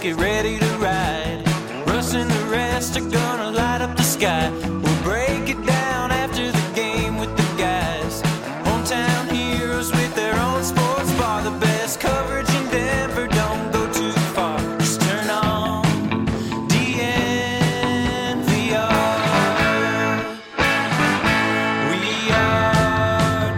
get ready to ride. Russ and the rest are gonna light up the sky. We'll break it down after the game with the guys. Hometown heroes with their own sports bar. The best coverage in Denver, don't go too far. Just turn on DNVR. We are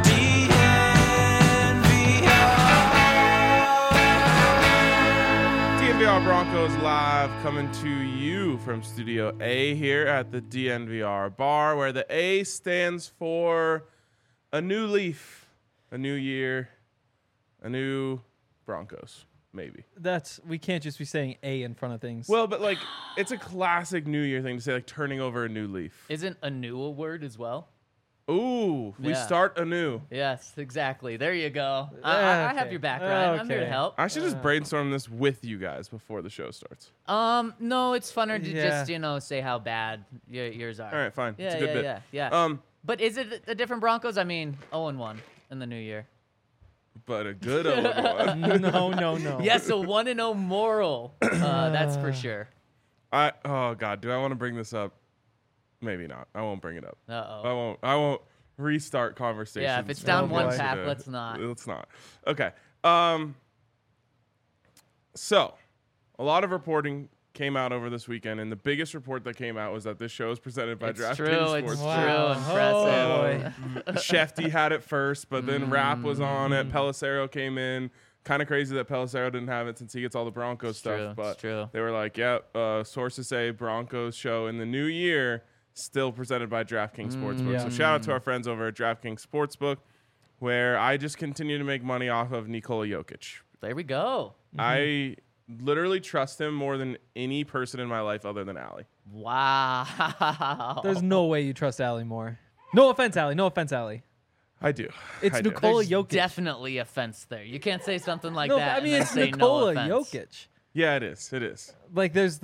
DNVR. DNVR Broncos Live coming to you from Studio A here at the DNVR bar, where the A stands for a new leaf, a new year, a new Broncos, maybe. We can't just be saying A in front of things. Well, but like it's a classic New Year thing to say, like turning over a new leaf. Isn't anew a word as well? Ooh, we Yeah. start anew. Yes, exactly. There you go. I have Okay. your back, Ryan. I'm here to Okay. help. I should just brainstorm this with you guys before the show starts. No, it's funner to Yeah. just, say how bad yours are. All right, fine. Yeah, it's a good yeah, bit. yeah. But is it a different Broncos? I mean, 0-1 in the new year. But a good one. no. Yes, a 1-0 moral. That's for sure. Oh God, do I want to bring this up? Maybe not. I won't bring it up. Uh-oh. I won't restart conversations. Yeah, if it's down one Let's path, let's not. Let's not. Okay. So, a lot of reporting came out over this weekend, and the biggest report that came out was that this show is presented by It's DraftKings true. Sportsbook. It's Wow. true. Impressive. Oh, Shefty had it first, but then Rapp was on Mm. it. Pelissero came in. Kind of crazy that Pelissero didn't have it since he gets all the Broncos stuff. true, But it's true. they were like, sources say Broncos show in the new year, still presented by DraftKings Sportsbook. Yeah. So shout out to our friends over at DraftKings Sportsbook, where I just continue to make money off of Nikola Jokic. There we go. I literally trust him more than any person in my life other than Allie. Wow. There's no way you trust Allie more. No offense, Allie. I do. It's I do. Nikola There's Jokic. definitely a fence there. You can't say something like No, that. I mean, and then it's say Nikola no offense. Jokic. Yeah, it is. It is. Like, there's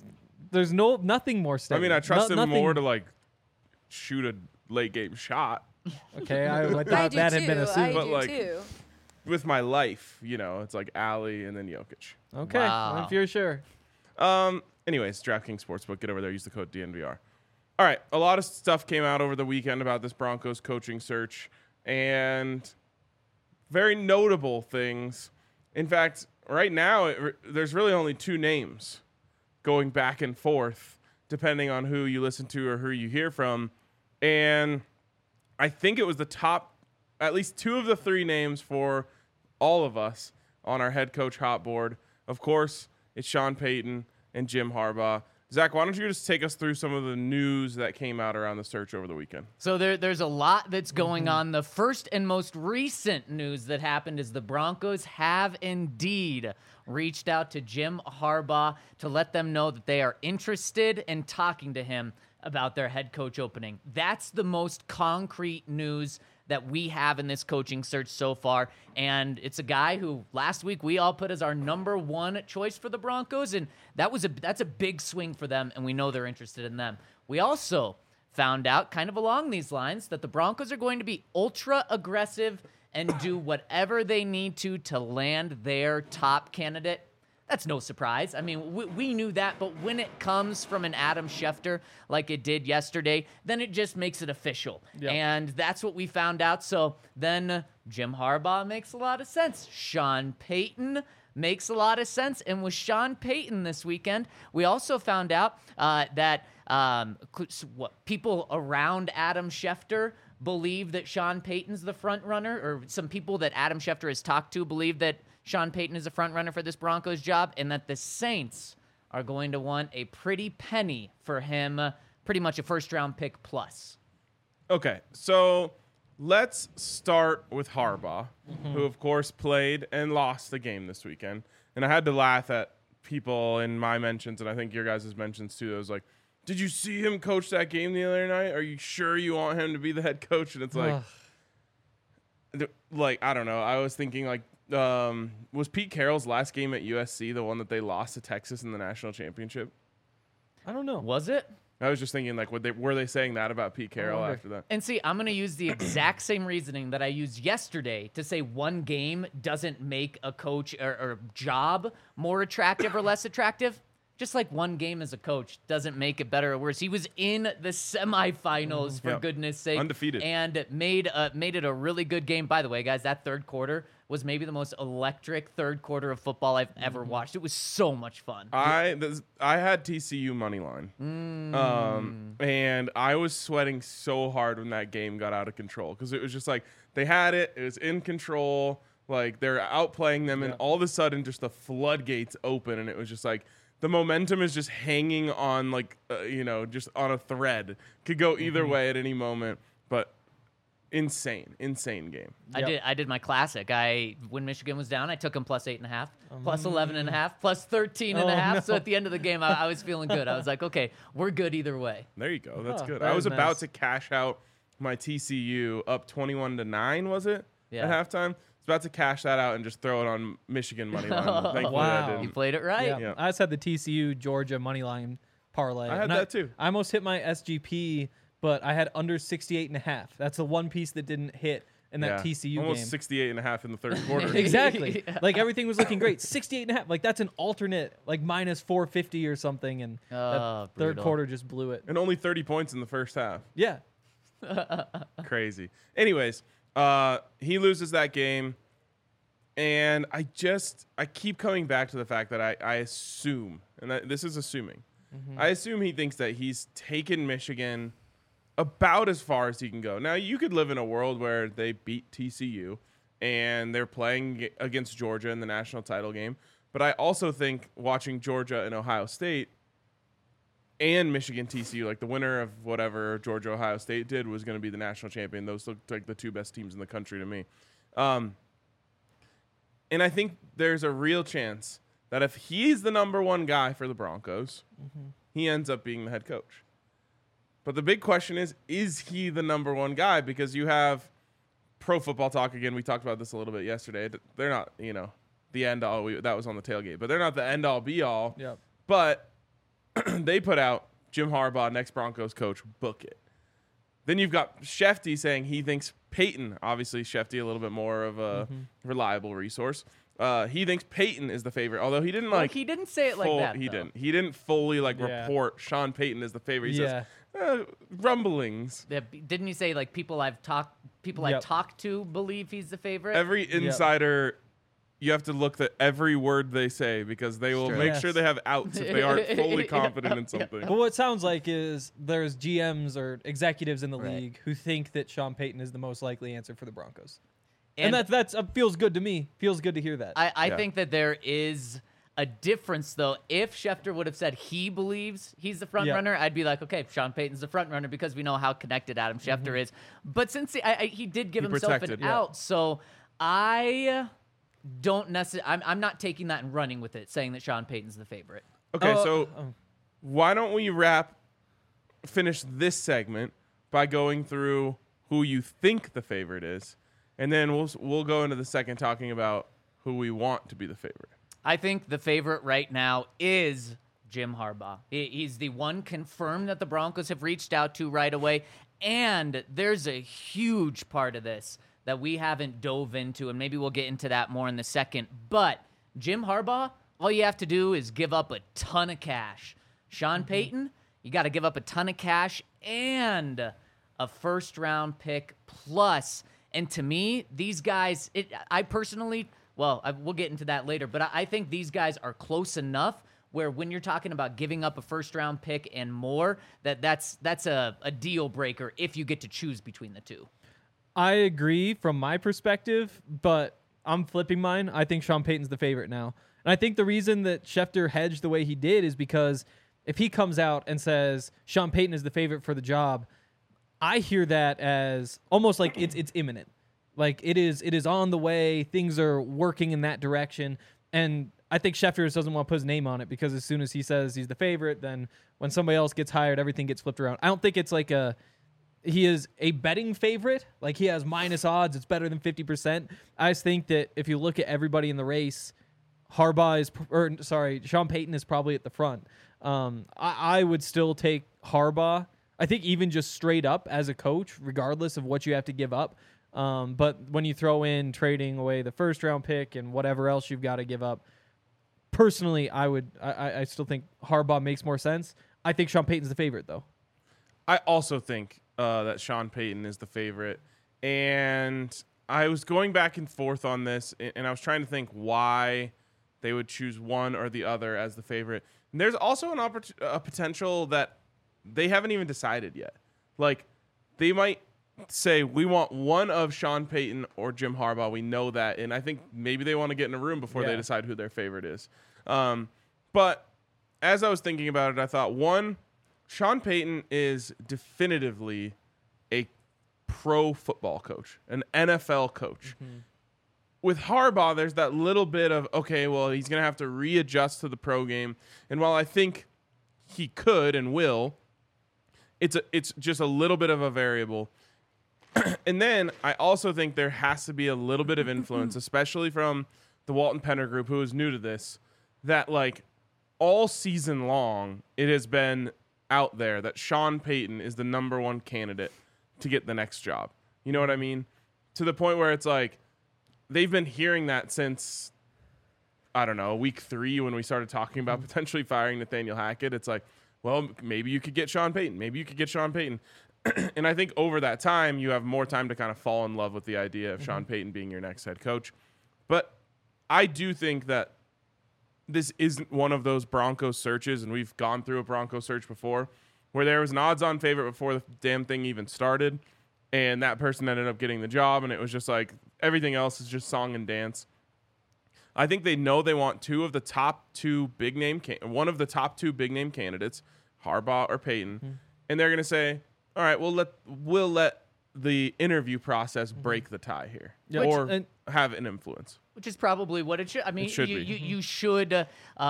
nothing more I steady. mean, I trust him nothing- more to like shoot a late game shot. Okay, I thought I do that too. had been I assumed. But, do like, too. With my life, it's like Allie and then Jokic. Okay, Wow. if you're sure. Anyways, DraftKings Sportsbook, get over there, use the code DNVR. All right, a lot of stuff came out over the weekend about this Broncos coaching search, and very notable things. In fact, right now, there's really only two names going back and forth, depending on who you listen to or who you hear from. And I think it was the top, at least two of the three names for all of us on our head coach hot board. Of course, it's Sean Payton and Jim Harbaugh. Zach, why don't you just take us through some of the news that came out around the search over the weekend? So there's a lot that's going on. The first and most recent news that happened is the Broncos have indeed reached out to Jim Harbaugh to let them know that they are interested in talking to him about their head coach opening. That's the most concrete news that we have in this coaching search so far. And it's a guy who last week we all put as our number one choice for the Broncos. And that's a big swing for them. And we know they're interested in them. We also found out kind of along these lines that the Broncos are going to be ultra aggressive and do whatever they need to land their top candidate. That's no surprise. I mean, we knew that, but when it comes from an Adam Schefter like it did yesterday, then it just makes it official. Yep. And that's what we found out. So then Jim Harbaugh makes a lot of sense. Sean Payton makes a lot of sense. And with Sean Payton this weekend, we also found out that people around Adam Schefter believe that Sean Payton's the front runner, or some people that Adam Schefter has talked to believe that Sean Payton is a front runner for this Broncos job, and that the Saints are going to want a pretty penny for him, pretty much a first-round pick plus. Okay, so let's start with Harbaugh, who, of course, played and lost the game this weekend. And I had to laugh at people in my mentions, and I think your guys' mentions too. I was like, did you see him coach that game the other night? Are you sure you want him to be the head coach? And it's like, I don't know. I was thinking, like, was Pete Carroll's last game at USC the one that they lost to Texas in the national championship? I don't know. Was it? I was just thinking, like, were they saying that about Pete Carroll wonder. after that? And see, I'm going to use the exact same reasoning that I used yesterday to say one game doesn't make a coach or job more attractive or less attractive. Just like one game as a coach doesn't make it better or worse. He was in the semifinals, for Yep. goodness sake. Undefeated. And made it a really good game. By the way, guys, that third quarter was maybe the most electric third quarter of football I've ever watched. It was so much fun. I had TCU money line, and I was sweating so hard when that game got out of control because it was just like they had it was in control, like they're outplaying them, and all of a sudden just the floodgates open, and it was just like the momentum is just hanging on like just on a thread, could go either way at any moment, but insane game. I did my classic. When Michigan was down, I took them plus 8.5, plus 11.5, plus 13.5. So at the end of the game, I was feeling good. I was like, okay, we're good either way. There you go. That's good. that I was is about nice. to cash out my TCU up 21-9, was it? Yeah. At halftime. I was about to cash that out and just throw it on Michigan money line. Thankfully, Wow. I You didn't. played it right. Yeah. Yeah. I just had the TCU Georgia money line parlay. I had and that too. I almost hit my SGP, but I had under 68.5. That's the one piece that didn't hit in that TCU almost game. 68.5 in the third quarter. Exactly. Like everything was looking great. 68.5. Like that's an alternate, like minus 450 or something, and that third brutal. quarter just blew it. And only 30 points in the first half. Yeah. Crazy. Anyways, he loses that game. And I keep coming back to the fact that I assume, and this is assuming, I assume he thinks that he's taken Michigan about as far as he can go. Now, you could live in a world where they beat TCU and they're playing against Georgia in the national title game. But I also think watching Georgia and Ohio State and Michigan TCU, like the winner of whatever Georgia Ohio State did was going to be the national champion. Those looked like the two best teams in the country to me. And I think there's a real chance that if he's the number one guy for the Broncos, he ends up being the head coach. But the big question is he the number one guy? Because you have Pro Football Talk again. We talked about this a little bit yesterday. They're not, the end all. That was on the tailgate, but they're not the end all be all. Yep. But they put out Jim Harbaugh, next Broncos coach, book it. Then you've got Shefty saying he thinks Peyton, obviously Shefty a little bit more of a reliable resource. He thinks Peyton is the favorite, although he didn't He didn't say it like that. He though. didn't. He didn't fully Yeah. report Sean Payton as the favorite. He Yeah. says rumblings. Yeah, didn't he say like people I've talked to believe he's the favorite? Every insider, you have to look at every word they say because they will Sure. make Yes. sure they have outs if they aren't fully confident in something. But what it sounds like is there's GMs or executives in the Right. league who think that Sean Payton is the most likely answer for the Broncos. And, And that's feels good to me. Feels good to hear that. I Yeah. think that there is a difference, though. If Schefter would have said he believes he's the front Yeah. runner, I'd be like, okay, Sean Payton's the front runner because we know how connected Adam Schefter is. But since he did give He himself protected. an Yeah. out, so I don't necessarily. I'm not taking that and running with it, saying that Sean Payton's the favorite. Okay, Oh, so why don't we finish this segment by going through who you think the favorite is, and then we'll go into the second talking about who we want to be the favorite. I think the favorite right now is Jim Harbaugh. He's the one confirmed that the Broncos have reached out to right away. And there's a huge part of this that we haven't dove into, and maybe we'll get into that more in the second. But Jim Harbaugh, all you have to do is give up a ton of cash. Sean Payton, you got to give up a ton of cash and a first-round pick plus. And to me, these guys, I personally... Well, we'll get into that later, but I think these guys are close enough where when you're talking about giving up a first-round pick and more, that's a deal breaker if you get to choose between the two. I agree from my perspective, but I'm flipping mine. I think Sean Payton's the favorite now. And I think the reason that Schefter hedged the way he did is because if he comes out and says Sean Payton is the favorite for the job, I hear that as almost like it's imminent. Like it is on the way. Things are working in that direction. And I think Schefter just doesn't want to put his name on it because as soon as he says he's the favorite, then when somebody else gets hired, everything gets flipped around. I don't think it's like he is a betting favorite. Like he has minus odds. It's better than 50%. I just think that if you look at everybody in the race, Sean Payton is probably at the front. I would still take Harbaugh. I think even just straight up as a coach, regardless of what you have to give up. But when you throw in trading away the first round pick and whatever else you've got to give up, personally, I still think Harbaugh makes more sense. I think Sean Payton's the favorite, though. I also think that Sean Payton is the favorite. And I was going back and forth on this, and I was trying to think why they would choose one or the other as the favorite. And there's also a potential that they haven't even decided yet. Like, they might say, we want one of Sean Payton or Jim Harbaugh. We know that. And I think maybe they want to get in a room before they decide who their favorite is. But as I was thinking about it, I thought, one, Sean Payton is definitively a pro football coach, an NFL coach. Mm-hmm. With Harbaugh, there's that little bit of, okay, well, he's going to have to readjust to the pro game. And while I think he could and will, it's just a little bit of a variable. And then I also think there has to be a little bit of influence, especially from the Walton Penner group, who is new to this, that like all season long, it has been out there that Sean Payton is the number one candidate to get the next job. You know what I mean? To the point where it's like they've been hearing that since, I don't know, week 3 when we started talking about potentially firing Nathaniel Hackett. It's like, well, maybe you could get Sean Payton. Maybe you could get Sean Payton. And I think over that time, you have more time to kind of fall in love with the idea of Sean Payton being your next head coach. But I do think that this isn't one of those Broncos searches, and we've gone through a Broncos search before, where there was an odds-on favorite before the damn thing even started, and that person ended up getting the job, and it was just like everything else is just song and dance. I think they know they want one of the top two big name candidates, Harbaugh or Payton, and they're going to say, all right, we'll let the interview process break the tie here, or have an influence. Which is probably what it should. I mean, you should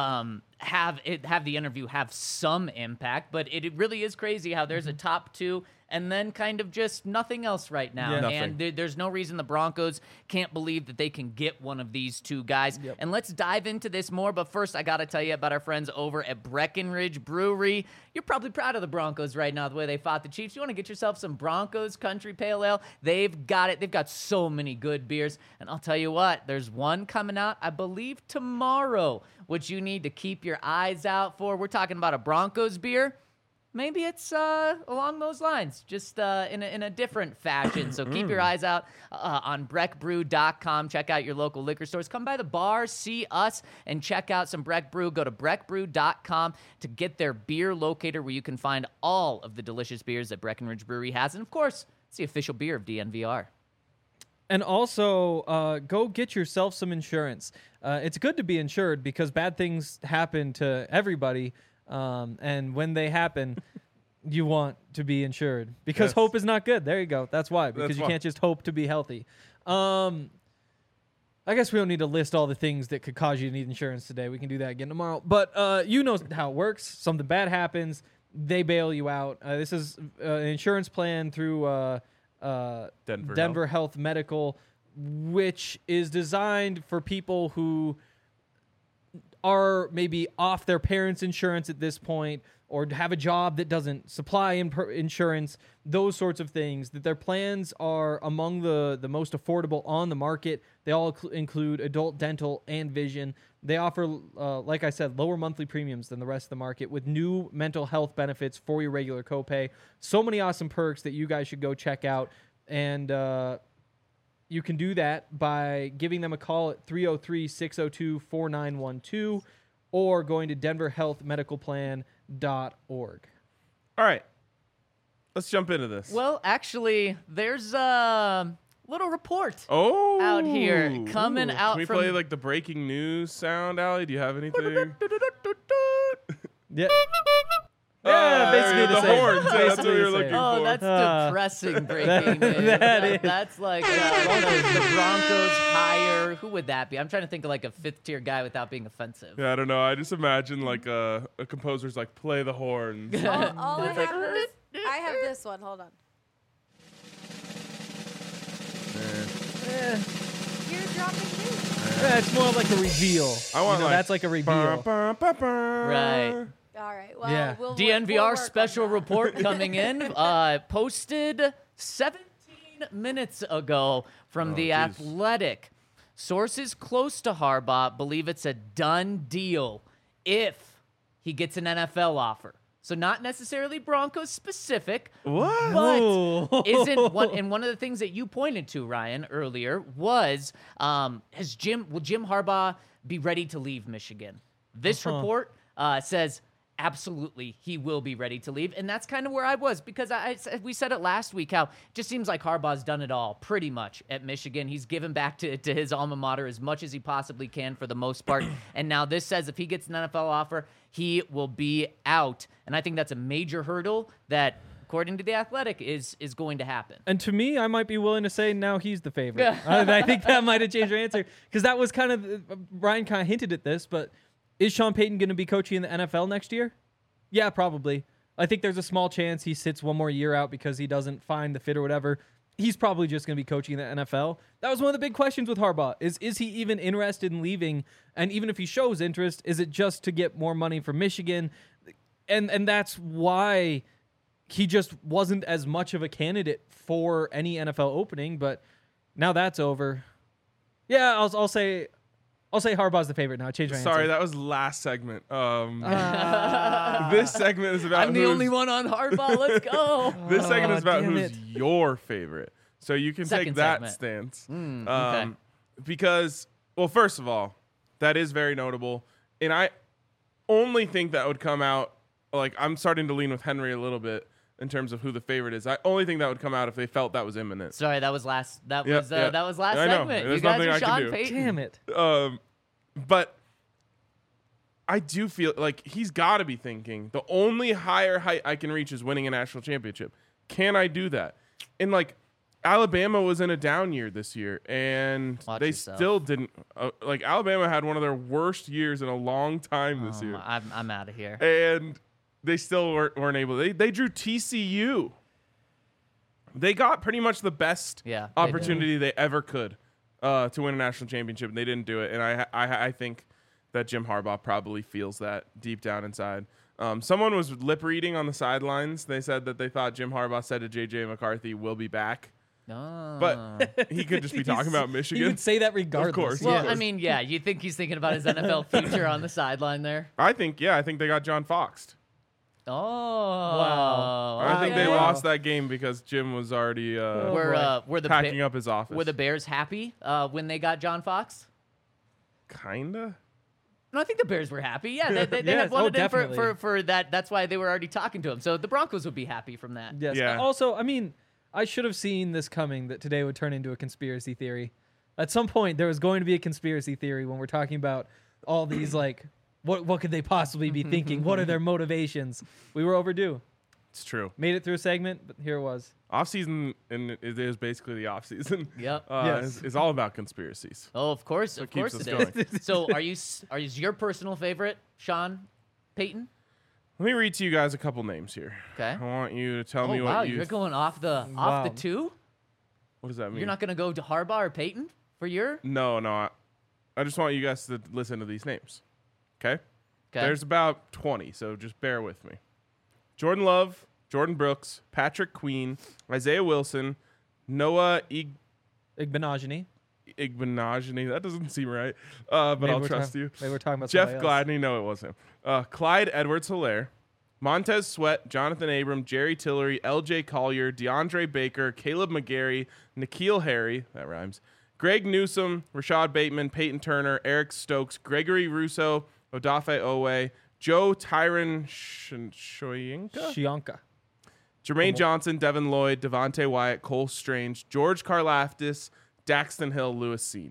have the interview have some impact, but it really is crazy how there's a top 2 and then kind of just nothing else right now. Yeah. And there's no reason the Broncos can't believe that they can get one of these two guys. Yep. And let's dive into this more. But first, I got to tell you about our friends over at Breckenridge Brewery. You're probably proud of the Broncos right now, the way they fought the Chiefs. You want to get yourself some Broncos Country Pale Ale? They've got it. They've got so many good beers. And I'll tell you what, there's one coming out, I believe, tomorrow, which you need to keep your eyes out for. We're talking about a Broncos beer. Maybe it's along those lines, just in a different fashion. So keep your eyes out on breckbrew.com. Check out your local liquor stores. Come by the bar, see us, and check out some Breck Brew. Go to breckbrew.com to get their beer locator where you can find all of the delicious beers that Breckenridge Brewery has. And, of course, it's the official beer of DNVR. And also, go get yourself some insurance. It's good to be insured because bad things happen to everybody. And when they happen, you want to be insured because hope is not good. There you go. That's why, because you can't just hope to be healthy. I guess we don't need to list all the things that could cause you to need insurance today. We can do that again tomorrow. But you know how it works. Something bad happens, they bail you out. This is an insurance plan through Denver Health Medical, which is designed for people who are maybe off their parents' insurance at this point, or have a job that doesn't supply insurance, those sorts of things, that their plans are among the most affordable on the market. They all include adult dental and vision. They offer, like I said, lower monthly premiums than the rest of the market with new mental health benefits for your regular copay. So many awesome perks that you guys should go check out. And you can do that by giving them a call at 303-602-4912 or going to denverhealthmedicalplan.org. All right. Let's jump into this. Well, actually, there's a little report out here coming out from... Can we play like the breaking news sound, Allie? Do you have anything? Yeah. Yeah, basically the same. Horns. Yeah, that's what we were looking for. Oh, that's depressing breaking news. That's like the Broncos hire. Who would that be? I'm trying to think of like a 5th-tier guy without being offensive. Yeah, I don't know. I just imagine like a composer's like, play the horns. All I have this one. Hold on. You're dropping news. It's more like a reveal. I want that's like a reveal. Right. All right. Well, Yeah. we'll DNVR work on special that. report coming in, posted 17 minutes ago from The geez. Athletic. Sources close to Harbaugh believe it's a done deal if he gets an NFL offer. So not necessarily Broncos specific, What? but isn't one. And one of the things that you pointed to, Ryan, earlier was, will Jim Harbaugh be ready to leave Michigan? This report says absolutely he will be ready to leave, and that's kind of where I was, because we said it last week how it just seems like Harbaugh's done it all pretty much at Michigan. He's given back to his alma mater as much as he possibly can for the most part, and now this says if he gets an NFL offer, he will be out, and I think that's a major hurdle that, according to The Athletic, is going to happen. And to me, I might be willing to say now he's the favorite. I think that might have changed your answer, because that was kind of Ryan kind of hinted at this, but is Sean Payton going to be coaching in the NFL next year? Yeah, probably. I think there's a small chance he sits one more year out because he doesn't find the fit or whatever. He's probably just going to be coaching in the NFL. That was one of the big questions with Harbaugh. Is he even interested in leaving? And even if he shows interest, is it just to get more money from Michigan? And that's why he just wasn't as much of a candidate for any NFL opening. But now that's over. Yeah, I'll say Harbaugh's the favorite now. I changed my Sorry, answer. that was last segment. This segment is about I'm the only one on Harbaugh. Let's go. This segment is about damn who's it. your favorite. So you can take Second that segment. stance. Okay. Because, well, first of all, that is very notable. And I only think that would come out, like, I'm starting to lean with Henry a little bit in terms of who the favorite is. I only think that would come out if they felt that was imminent. Sorry, that was last. That Yeah, was yeah. that was last I know. segment. There's You guys nothing are I can Sean do. Payton. Damn it. But I do feel like he's got to be thinking the only higher height I can reach is winning a national championship. Can I do that? And like Alabama was in a down year this year, and Watch they yourself. still didn't. Like Alabama had one of their worst years in a long time this year, I'm out of here. and they still weren't able. They drew TCU. They got pretty much the best Yeah, they did. opportunity they ever could to win a national championship, and they didn't do it. And I think that Jim Harbaugh probably feels that deep down inside. Someone was lip reading on the sidelines. They said that they thought Jim Harbaugh said to JJ McCarthy, "We'll be back," Oh. but he could just be talking about He Michigan. would say that regardless. course. Well, Yeah. I mean, yeah, you think he's thinking about his NFL future on the sideline there? I think they got John Foxed. Oh, Wow. I think they Wow. lost that game because Jim was already Were the packing up his office. Were the Bears happy when they got John Fox? Kinda. No, I think the Bears were happy. Yeah, they Yes. had wanted Oh, him definitely. for that. That's why they were already talking to him. So the Broncos would be happy from that. Yes. Yeah. Also, I mean, I should have seen this coming, that today would turn into a conspiracy theory. At some point, there was going to be a conspiracy theory when we're talking about all these, like, what could they possibly be thinking? What are their motivations? We were overdue. It's true. Made it through a segment, but here it was. Off season, and it is basically the off season. Yep. Yes. is all about conspiracies. Oh, of course, That's what it keeps is. So, are you your personal favorite, Sean Payton? Let me read to you guys a couple names here. Okay. I want you to tell Oh me wow, what you. you're going off the Wow. two. What does that mean? You're not going to go to Harbaugh or Payton for your? No. I just want you guys to listen to these names. Okay. Okay. There's about 20, so just bear with me. Jordan Love, Jordan Brooks, Patrick Queen, Isaiah Wilson, Noah Igbenogany. Igbenogany. That doesn't seem right, but Maybe I'll we're trust ta- you. Maybe we're talking about Jeff somebody else. Gladney, no, it wasn't him. Clyde Edwards-Helaire, Montez Sweat, Jonathan Abram, Jerry Tillery, L.J. Collier, DeAndre Baker, Caleb McGarry, N'Keal Harry, that rhymes, Greg Newsome, Rashad Bateman, Peyton Turner, Eric Stokes, Gregory Russo, Odafe Owe, Joe Tyron Shoyinka, Shionka. Jermaine Johnson, Devin Lloyd, Devontae Wyatt, Cole Strange, George Karlaftis, Daxton Hill, Lewis Seen.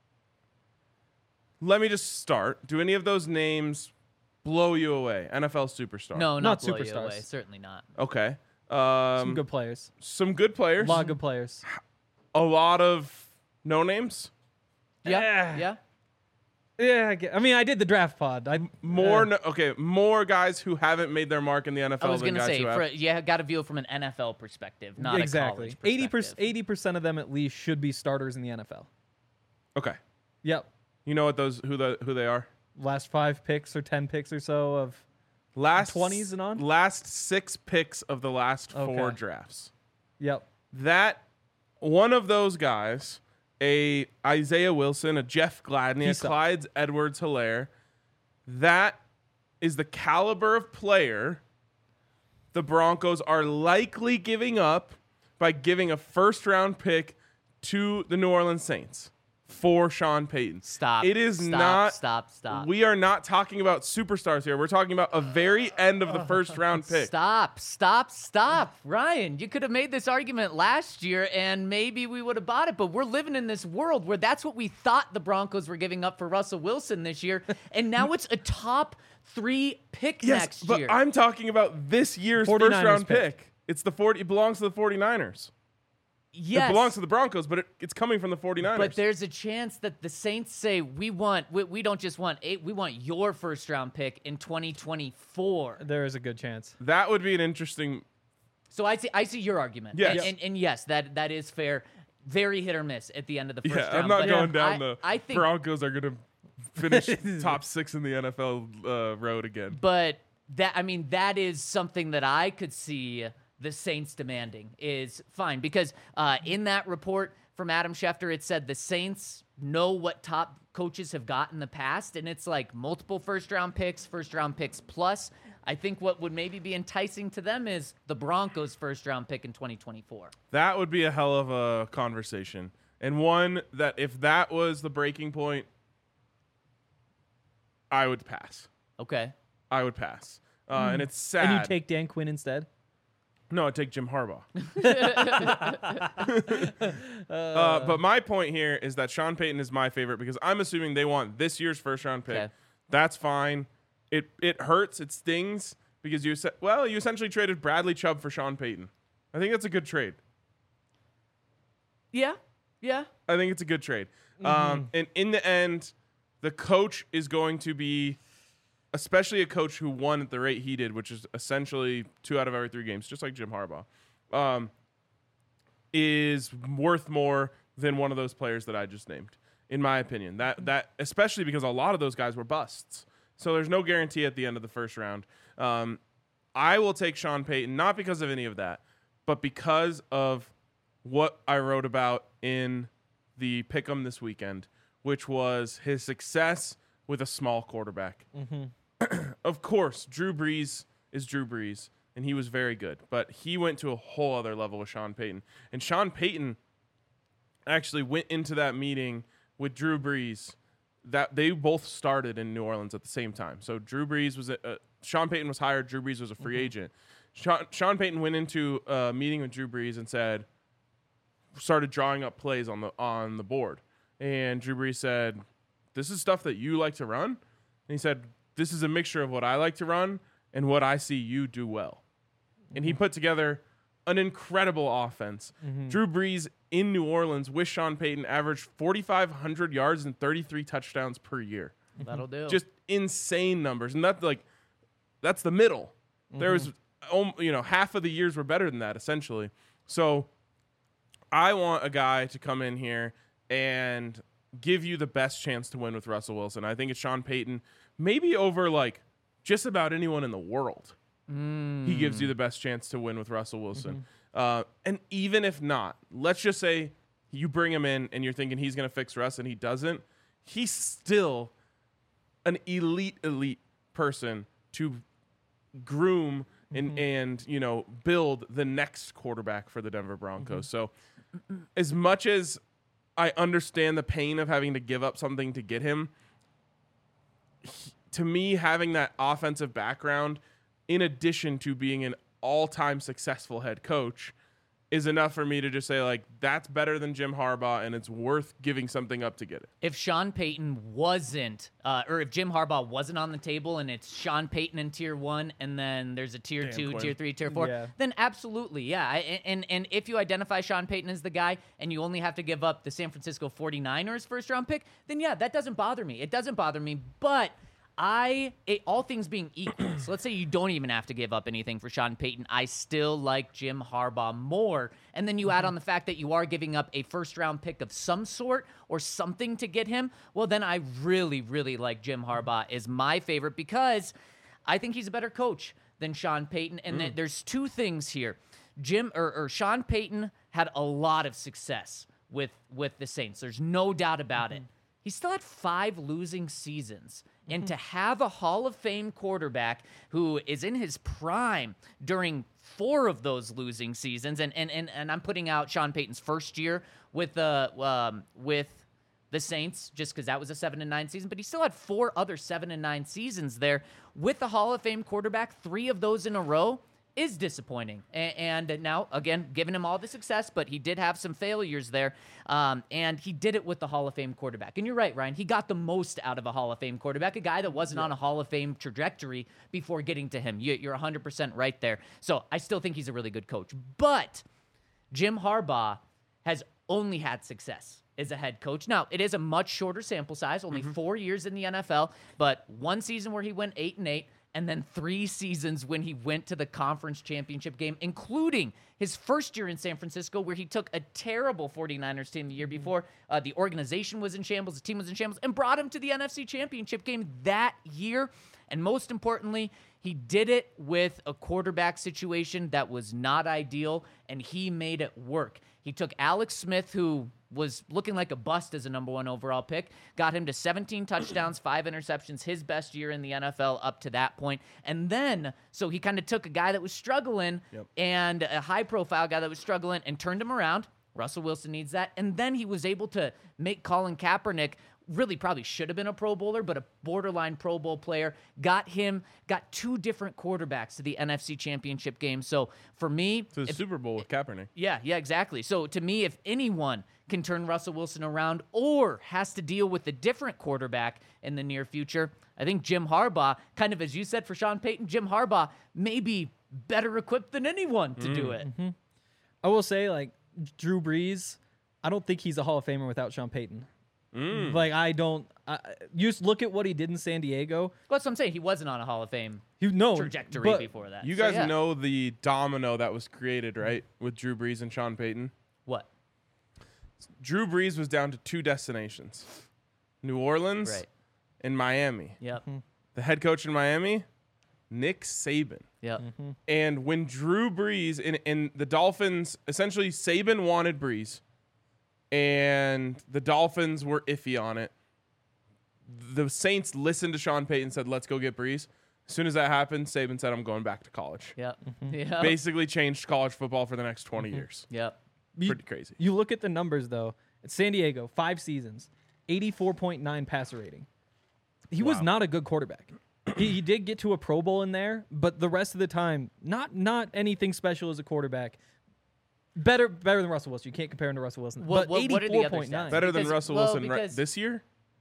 Let me just start. Do any of those names blow you away? NFL superstar. No, Not not blow you superstars. away. Certainly not. Okay. Some good players. Some good players. A lot of good players. A lot of no names. Yeah. Yeah. Yeah. Yeah, I mean, I did the draft pod. More guys who haven't made their mark in the NFL I was than gonna guys say, who have. you got to view it from an NFL perspective, not exactly. a college perspective. 80% of them at least should be starters in the NFL. Okay. Yep. You know what who they are? Last 5 picks or 10 picks or so of Last 20s and on? Last 6 picks of the last 4 Okay. drafts. Yep. That one of those guys, a Isaiah Wilson, a Jeff Gladney, He a sucks. Clyde Edwards-Helaire, that is the caliber of player the Broncos are likely giving up by giving a first-round pick to the New Orleans Saints for Sean Payton. Stop. It is Stop, not. Stop. We are not talking about superstars here. We're talking about a very end of the first-round pick. Stop. Ryan, you could have made this argument last year and maybe we would have bought it, but we're living in this world where that's what we thought the Broncos were giving up for Russell Wilson this year, and now it's a top 3 pick Yes, next but year. I'm talking about this year's 49ers first-round pick. pick. It belongs to the 49ers. yes. It belongs to the Broncos, but it's coming from the 49ers. But there's a chance that the Saints say, we don't just want 8, we want your first round pick in 2024. There is a good chance. That would be an interesting. So I see your argument. Yes. And yes, that is fair. Very hit or miss at the end of the first Yeah, round. I'm not but going down I the think, Broncos are going to finish top 6 in the NFL road again. but that is something that I could see the Saints demanding is fine, because in that report from Adam Schefter, it said the Saints know what top coaches have got in the past, and it's like multiple first round picks plus. I think what would maybe be enticing to them is the Broncos' first round pick in 2024. That would be a hell of a conversation. And one that if that was the breaking point, I would pass. Okay. I would pass. And it's sad. And you take Dan Quinn instead? No, I'd take Jim Harbaugh. But my point here is that Sean Payton is my favorite because I'm assuming they want this year's first round pick. Okay. That's fine. It hurts. It stings because you essentially traded Bradley Chubb for Sean Payton. I think that's a good trade. Yeah. I think it's a good trade. And in the end, the coach is going to be, especially a coach who won at the rate he did, which is essentially 2 out of every 3 games, just like Jim Harbaugh, is worth more than one of those players that I just named, in my opinion. That especially because a lot of those guys were busts. So there's no guarantee at the end of the first round. I will take Sean Payton, not because of any of that, but because of what I wrote about in the Pick'em this weekend, which was his success with a small quarterback. Of course, Drew Brees is Drew Brees, and he was very good, but he went to a whole other level with Sean Payton. And Sean Payton actually went into that meeting with Drew Brees. That they both started in New Orleans at the same time. So Drew Brees was Sean Payton was hired. Drew Brees was a free agent. Sean Payton went into a meeting with Drew Brees and started drawing up plays on the board. And Drew Brees said, "This is stuff that you like to run." And he said, "This is a mixture of what I like to run and what I see you do well." And he put together an incredible offense. Drew Brees in New Orleans with Sean Payton averaged 4,500 yards and 33 touchdowns per year. That'll do. Just insane numbers. And that's the middle. There was, half of the years were better than that, essentially. So I want a guy to come in here and give you the best chance to win with Russell Wilson. I think it's Sean Payton, maybe over just about anyone in the world. He gives you the best chance to win with Russell Wilson. And even if not, let's just say you bring him in and you're thinking he's going to fix Russ and he doesn't. He's still an elite person to groom and build the next quarterback for the Denver Broncos. So as much as I understand the pain of having to give up something to get him, to me, having that offensive background, in addition to being an all-time successful head coach, is enough for me to just say, that's better than Jim Harbaugh, and it's worth giving something up to get it. If Sean Payton wasn't, or if Jim Harbaugh wasn't on the table and it's Sean Payton in tier 1 and then there's a tier 2, Quinn. tier 3, tier 4, Yeah. then absolutely, yeah. And if you identify Sean Payton as the guy and you only have to give up the San Francisco 49ers first round pick, then yeah, that doesn't bother me. It doesn't bother me, but all things being equal, so let's say you don't even have to give up anything for Sean Payton, I still like Jim Harbaugh more. And then you add on the fact that you are giving up a first-round pick of some sort or something to get him. Well, then I really, really like Jim Harbaugh as my favorite because I think he's a better coach than Sean Payton. And there's two things here. Sean Payton had a lot of success with the Saints. There's no doubt about it. He still had 5 losing seasons. And to have a Hall of Fame quarterback who is in his prime during 4 of those losing seasons, and I'm putting out Sean Payton's first year with the Saints, just because that was a 7-9 season, but he still had 4 other 7-9 seasons there with the Hall of Fame quarterback. 3 of those in a row is disappointing. And now, again, giving him all the success, but he did have some failures there. And he did it with the Hall of Fame quarterback. And you're right, Ryan. He got the most out of a Hall of Fame quarterback, a guy that wasn't on a Hall of Fame trajectory before getting to him. You're 100% right there. So I still think he's a really good coach. But Jim Harbaugh has only had success as a head coach. Now, it is a much shorter sample size, only 4 years in the NFL, but 1 season where he went 8-8, and then 3 seasons when he went to the conference championship game, including his first year in San Francisco, where he took a terrible 49ers team the year before. The organization was in shambles, the team was in shambles, and brought him to the NFC championship game that year. And most importantly, he did it with a quarterback situation that was not ideal, and he made it work. He took Alex Smith, who was looking like a bust as a number 1 overall pick, got him to 17 touchdowns, 5 interceptions, his best year in the NFL up to that point. And then, so he kind of took a guy that was struggling and a high-profile guy that was struggling and turned him around. Russell Wilson needs that. And then he was able to make Colin Kaepernick, really probably should have been a Pro Bowler, but a borderline Pro Bowl player, got 2 different quarterbacks to the NFC Championship game. So for me... To the Super Bowl with Kaepernick. Yeah, exactly. So to me, if anyone can turn Russell Wilson around or has to deal with a different quarterback in the near future, I think Jim Harbaugh, kind of as you said for Sean Payton, Jim Harbaugh may be better equipped than anyone to do it. I will say, like, Drew Brees, I don't think he's a Hall of Famer without Sean Payton. Like, I don't... you just look at what he did in San Diego. Well, that's what I'm saying. He wasn't on a Hall of Fame trajectory but before that. You guys know the domino that was created, right? With Drew Brees and Sean Payton. What? Drew Brees was down to 2 destinations. New Orleans and Miami. Yep. The head coach in Miami, Nick Saban. Yep. And when Drew Brees and the Dolphins, essentially Saban wanted Brees, and the Dolphins were iffy on it. The Saints listened to Sean Payton and said, let's go get Brees. As soon as that happened, Saban said, I'm going back to college. Yep. Yep. Basically changed college football for the next 20 years. Yep. Pretty crazy. You look at the numbers, though. At San Diego, 5 seasons, 84.9 passer rating. He was not a good quarterback. He did get to a Pro Bowl in there, but the rest of the time, not anything special as a quarterback. Better than Russell Wilson. You can't compare him to Russell Wilson. What But are the other 84.9. stats? Better than Because- Russell well, Wilson because- this year?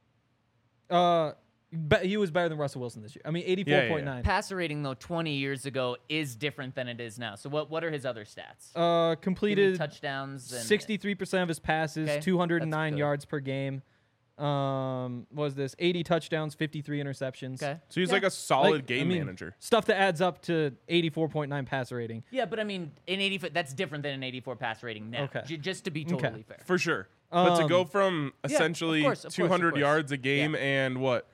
He was better than Russell Wilson this year. I mean, 84.9. Passer rating, though, 20 years ago is different than it is now. So what are his other stats? Completed Touchdowns. And 63% of his passes, Okay, 209 that's good. yards per game. Was this 80 touchdowns, 53 interceptions? Okay. So he's like a solid Like, game I mean, manager. Stuff that adds up to 84.9 passer rating. Yeah, but I mean, in 84, that's different than an 84 pass rating now. Okay. Just to be totally fair. For sure. But to go from essentially of course, 200 of yards a game Yeah. and what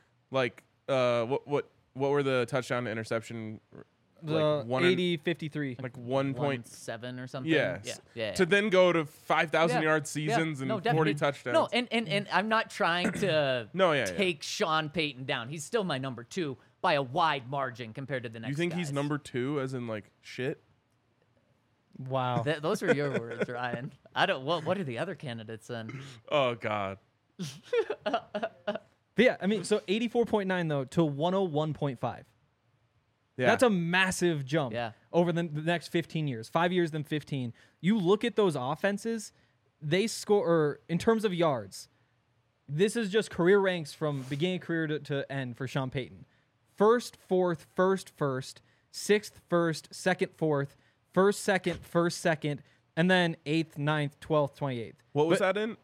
were the touchdown to interception? The Like 53. like 1.7 1.7 or something. Yes. Yeah. To then go to 5,000 Yeah. yard seasons Yeah. and No, 40 definitely. touchdowns. No, and I'm not trying to take Sean Payton down. He's still my number 2 by a wide margin compared to the next you think he's guys. number 2 as in like shit? Wow. Those are your words, Ryan. I don't. What are the other candidates then? Oh God. But yeah, I mean, so 84.9 though to 101.5. Yeah. That's a massive jump over the next 15 years. 5 years, then 15. You look at those offenses, they score, or in terms of yards, this is just career ranks from beginning of career to end for Sean Payton. First, fourth, first, sixth, first, second, fourth, first, second, and then 8th, 9th, 12th, 28th. What was that in?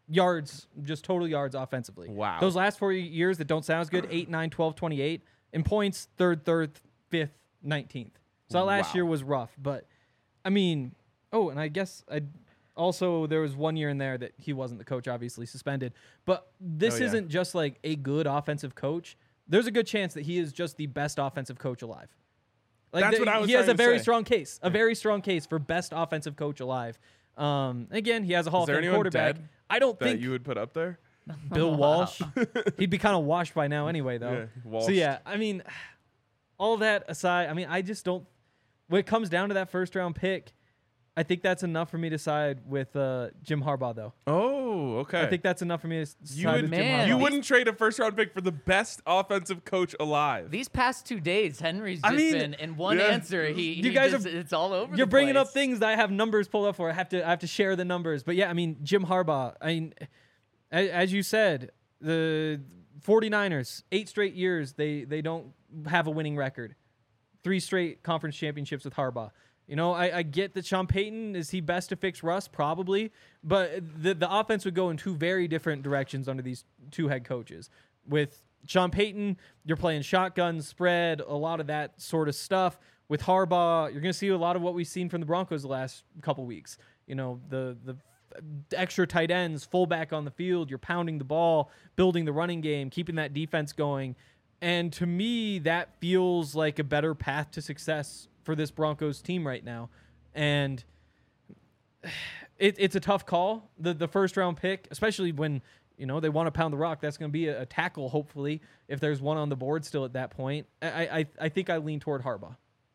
yards, just total yards offensively. Wow. Those last 4 years that don't sound as good, 8, 9, 12, 28. In points, 3rd, 5th, 19th. So that last Wow. year was rough. But, I mean, and I guess also there was 1 year in there that he wasn't the coach, obviously suspended. But this isn't just like a good offensive coach. There's a good chance that he is just the best offensive coach alive. Like That's what I was he has trying a to very say. strong case, very strong case for best offensive coach alive. Again, he has a Hall of there Fame anyone quarterback. dead I don't that think you would put up there? Bill Walsh. He'd be kind of washed by now anyway, though. Yeah, So yeah, I mean, all that aside, I mean, I just don't. When it comes down to that first round pick, I think that's enough for me to side with Jim Harbaugh, though. Oh, okay. I think that's enough for me to you side would, with Jim Man, Harbaugh. you these- wouldn't trade a first round pick for the best offensive coach alive. These past 2 days, Henry's I just mean, been in one yeah. answer. You guys are- it's all over. You're the bringing up place. things that I have numbers pulled up for. I have to share the numbers. But yeah, I mean, Jim Harbaugh. I mean, as you said, the 49ers, 8 straight years they don't have a winning record. 3 straight conference championships with Harbaugh. You know, I get that Sean Payton, is he best to fix Russ? Probably. But the offense would go in 2 very different directions under these 2 head coaches. With Sean Payton, you're playing shotgun, spread, a lot of that sort of stuff. With Harbaugh, you're going to see a lot of what we've seen from the Broncos the last couple weeks. You know, the extra tight ends, fullback on the field, you're pounding the ball, building the running game, keeping that defense going. And to me, that feels like a better path to success for this Broncos team right now. And it's a tough call, the first round pick, especially when, you know, they want to pound the rock. That's going to be a tackle, hopefully, if there's one on the board still at that point. I think I lean toward Harbaugh.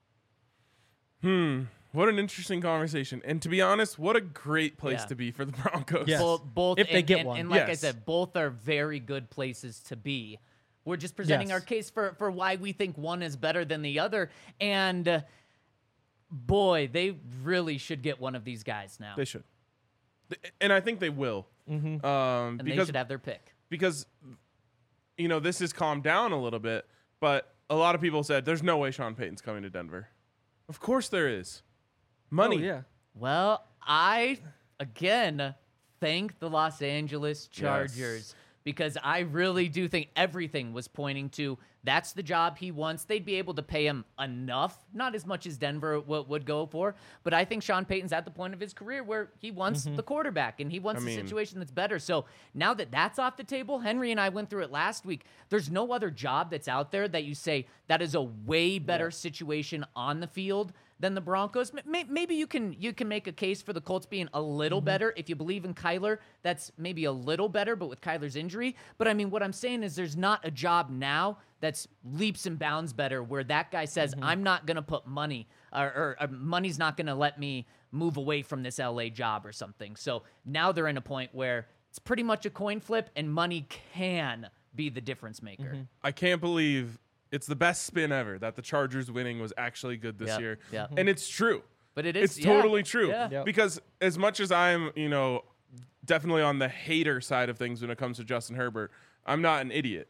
What an interesting conversation. And to be honest, what a great place Yeah. to be for the Broncos. Yes. Both If they and- get and- one. And like I Yes. said, both are very good places to be. We're just presenting Yes. our case for why we think one is better than the other. And boy, they really should get one of these guys now. They should. And I think they will. And they Because should have their pick. because you know, this has calmed down a little bit, but a lot of people said there's no way Sean Payton's coming to Denver. Of course there is. Money. Oh, yeah. Well, I, again, thank the Los Angeles Chargers because I really do think everything was pointing to that's the job he wants. They'd be able to pay him enough, not as much as Denver would go for, but I think Sean Payton's at the point of his career where he wants the quarterback and he wants a situation that's better. So now that that's off the table, Henry and I went through it last week. There's no other job that's out there that you say that is a way better situation on the field than the Broncos. Maybe you can make a case for the Colts being a little better if you believe in Kyler. That's maybe a little better, but with Kyler's injury. But I mean, what I'm saying is there's not a job now that's leaps and bounds better where that guy says, I'm not going to put money or money's not going to let me move away from this LA job or something. So now they're in a point where it's pretty much a coin flip and money can be the difference maker. I can't believe it's the best spin ever that the Chargers winning was actually good this Yep, year. yep. And it's true. But it is It's totally true. Yeah. Yep. Because as much as I'm, you know, definitely on the hater side of things when it comes to Justin Herbert, I'm not an idiot.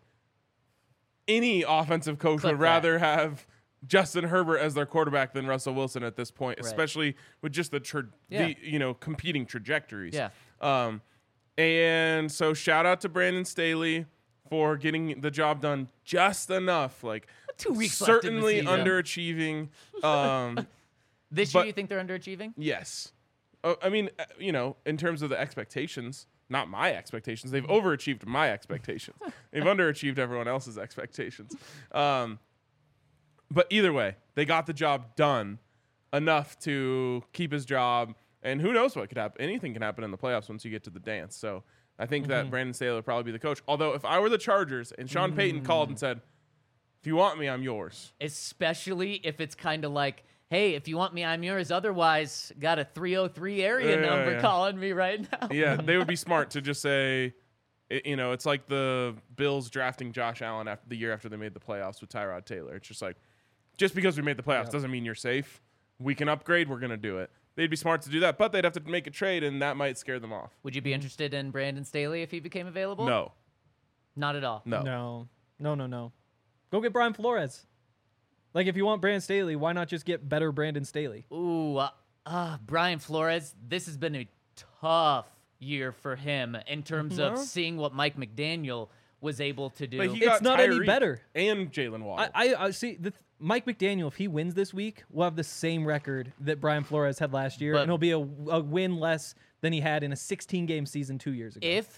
Any offensive coach Clip would that. rather have Justin Herbert as their quarterback than Russell Wilson at this point, Right. especially with just Yeah. the you know, competing trajectories. Yeah. And so shout out to Brandon Staley for getting the job done just enough. Like 2 weeks left in the certainly season. underachieving. This year But- you think they're underachieving? Yes. I mean, you know, in terms of the expectations, not my expectations. They've overachieved my expectations. They've underachieved everyone else's expectations. But either way, they got the job done enough to keep his job. And who knows what could happen. Anything can happen in the playoffs once you get to the dance. So I think that Brandon Staley will probably be the coach. Although if I were the Chargers and Sean Payton called and said, if you want me, I'm yours. Especially if it's kind of like, hey, if you want me, I'm yours. Otherwise, got a 303 area Yeah, number yeah. calling me right now. Yeah, they would be smart to just say, you know, it's like the Bills drafting Josh Allen after the year after they made the playoffs with Tyrod Taylor. It's just like, just because we made the playoffs doesn't mean you're safe. We can upgrade. We're going to do it. They'd be smart to do that, but they'd have to make a trade, and that might scare them off. Would you be interested in Brandon Staley if he became available? No, Not at all. no. No. Go get Brian Flores. Like, if you want Brandon Staley, why not just get better Brandon Staley? Ooh, Brian Flores, this has been a tough year for him in terms of seeing what Mike McDaniel was able to do. But he It's got not any Tyreek better. And Jalen Waddle. I see. Mike McDaniel, if he wins this week, will have the same record that Brian Flores had last year, But- and it'll be a win less than he had in a 16-game season 2 years ago. if,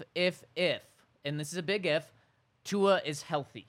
and this is a big if, Tua is healthy.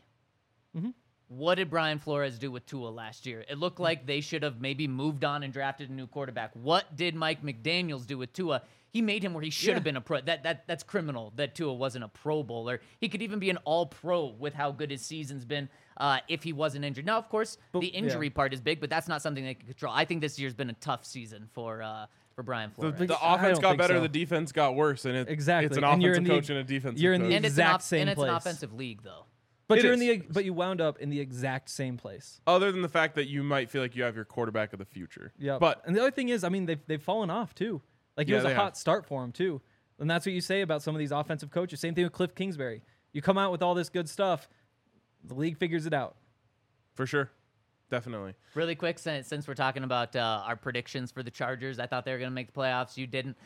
What did Brian Flores do with Tua last year? It looked like they should have maybe moved on and drafted a new quarterback. What did Mike McDaniels do with Tua? He made him where he should have been a pro. That's criminal that Tua wasn't a Pro Bowler. He could even be an All-Pro with how good his season's been if he wasn't injured. Now, of course, the injury part is big, but that's not something they can control. I think this year's been a tough season for Brian Flores. the I offense don't got think better, so. the defense got worse, and Exactly. it's an And you're offensive in the- coach and a defensive you're in the coach. and exact it's same an place. offensive league, though. But It you're is. in the but you wound up in the exact same place. Other than the fact that you might feel like you have your quarterback of the future. Yeah. But and the other thing is, I mean, they've fallen off too. Like it Yeah, was a they hot have. start for him too. And that's what you say about some of these offensive coaches. Same thing with Cliff Kingsbury. You come out with all this good stuff, the league figures it out. for sure. Definitely. Really quick, since we're talking about our predictions for the Chargers, I thought they were going to make the playoffs. You didn't.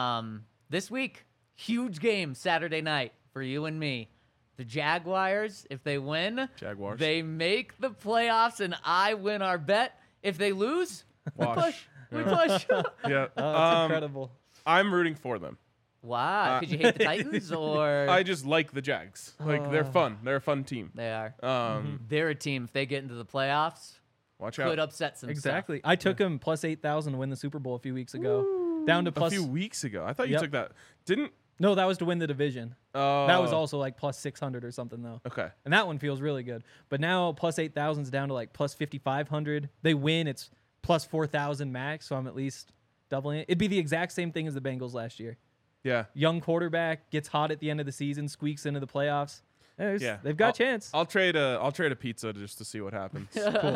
This week, huge game Saturday night for you and me. The Jaguars, if they win, Jaguars. they make the playoffs, and I win our bet. If they lose, Wash. we push. Yeah. Oh, that's incredible. I'm rooting for them. Wow, because you hate the Titans, or I just like the Jags. Like they're fun. They're a fun team. they are? Um, They're a team. If they get into the playoffs, watch could out. upset some Exactly. I took him plus 8,000 to win the Super Bowl a few weeks ago. Down to A plus. few weeks ago. I thought you Yep. took that. Didn't No, that was to win the division. Oh. That was also like plus 600 or something though. Okay. And that one feels really good. But now plus 8,000 is down to like plus 5,500. They win, it's plus 4,000 max, so I'm at least doubling it. It'd be the exact same thing as the Bengals last year. Yeah. Young quarterback gets hot at the end of the season, squeaks into the playoffs. Yeah. They've got a chance. I'll trade a pizza just to see what happens.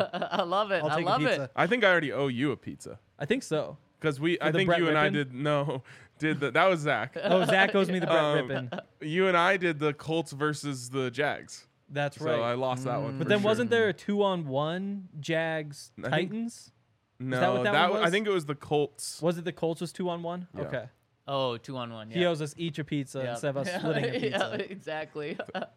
I love it. I'll I take a love pizza. it. I think I already owe you a pizza. I think so. Because I the think Brett you and I Rippin? did that was Zach. Oh, Zach owes me the Brett Rippin. You and I did the Colts versus the Jags. That's So right. I lost that one. But for then sure. wasn't there a 2-on-1 Jags I think- Titans? No, that what that one I was? think it was the Colts. Was it the Colts was 2-on-1? Yeah. Okay. Oh, 2-on-1. He Yeah. owes us each a pizza Yep. instead of us splitting a pizza. Yeah, exactly.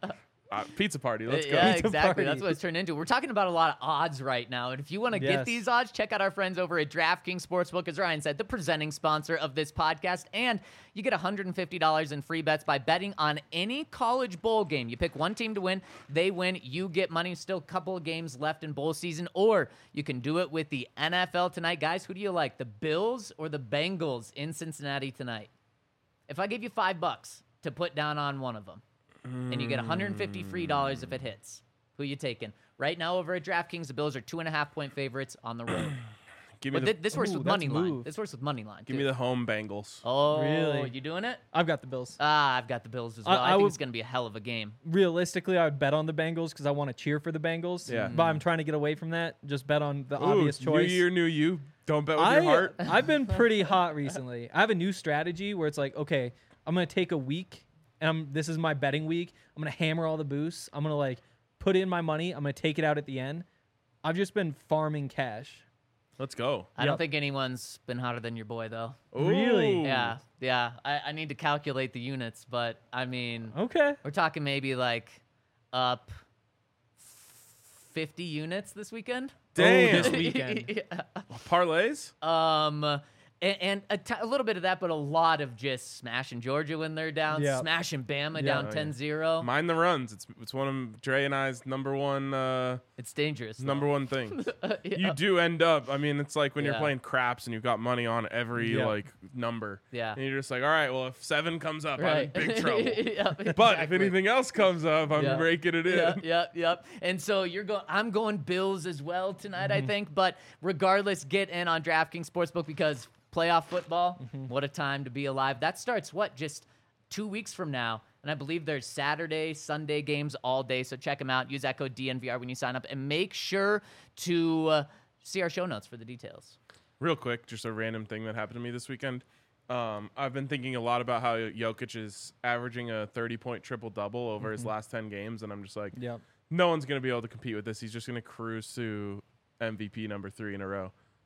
Pizza party. Let's go. Yeah, Pizza exactly. party. That's what it's turned into. We're talking about a lot of odds right now. And if you want to Yes. get these odds, check out our friends over at DraftKings Sportsbook, as Ryan said, the presenting sponsor of this podcast. And you get $150 in free bets by betting on any college bowl game. You pick one team to win, they win, you get money. Still a couple of games left in bowl season. Or you can do it with the NFL tonight. Guys, who do you like, the Bills or the Bengals in Cincinnati tonight? If I gave you $5 to put down on one of them, and you get $150 free dollars if it hits, who you taking? Right now over at DraftKings, the Bills are 2.5-point favorites on the road. Give me But the this works Ooh, with that's money line. move. This works with money line. give me the home Bengals. Oh, Really? you doing it? I've got the Bills. I've got the Bills as well. I I think would- it's going to be a hell of a game. Realistically, I would bet on the Bengals because I want to cheer for the Bengals. Yeah. But I'm trying to get away from that. Just bet on the Ooh, obvious choice. New year, new you. Don't bet with your heart. I've been pretty hot recently. I have a new strategy where it's like, okay, I'm gonna take a week, and this is my betting week. I'm gonna hammer all the boosts. I'm gonna like put in my money. I'm gonna take it out at the end. I've just been farming cash. Let's go. I don't Yep. think anyone's been hotter than your boy, though. Really? Ooh. Yeah. I need to calculate the units, but I mean, Okay. we're talking maybe like up 50 units this weekend. Damn. Oh, this weekend. Yeah. Parlays? And a little bit of that, but a lot of just smashing Georgia when they're down, Yeah. smashing Bama Yeah. down Oh, yeah. 10-0. Mind the runs. It's one of Dre and I's number one It's dangerous. though. things. Yeah. You do end up. I mean, it's like when you're Yeah. playing craps and you've got money on every Yeah. like number. Yeah. And you're just like, all right, well, if 7 comes up, I'm in Right. big trouble. Yep, But if exactly. anything else comes up, I'm Yeah. breaking it in. Yep. And so I'm going Bills as well tonight, I think. But regardless, get in on DraftKings Sportsbook because playoff football, what a time to be alive. That starts, just 2 weeks from now. And I believe there's Saturday, Sunday games all day. So check them out. Use that code DNVR when you sign up. And make sure to see our show notes for the details. Real quick, just a random thing that happened to me this weekend. I've been thinking a lot about how Jokic is averaging a 30-point triple-double over his last 10 games, and I'm just like, Yep. no one's going to be able to compete with this. He's just going to cruise to MVP number 3 in a row.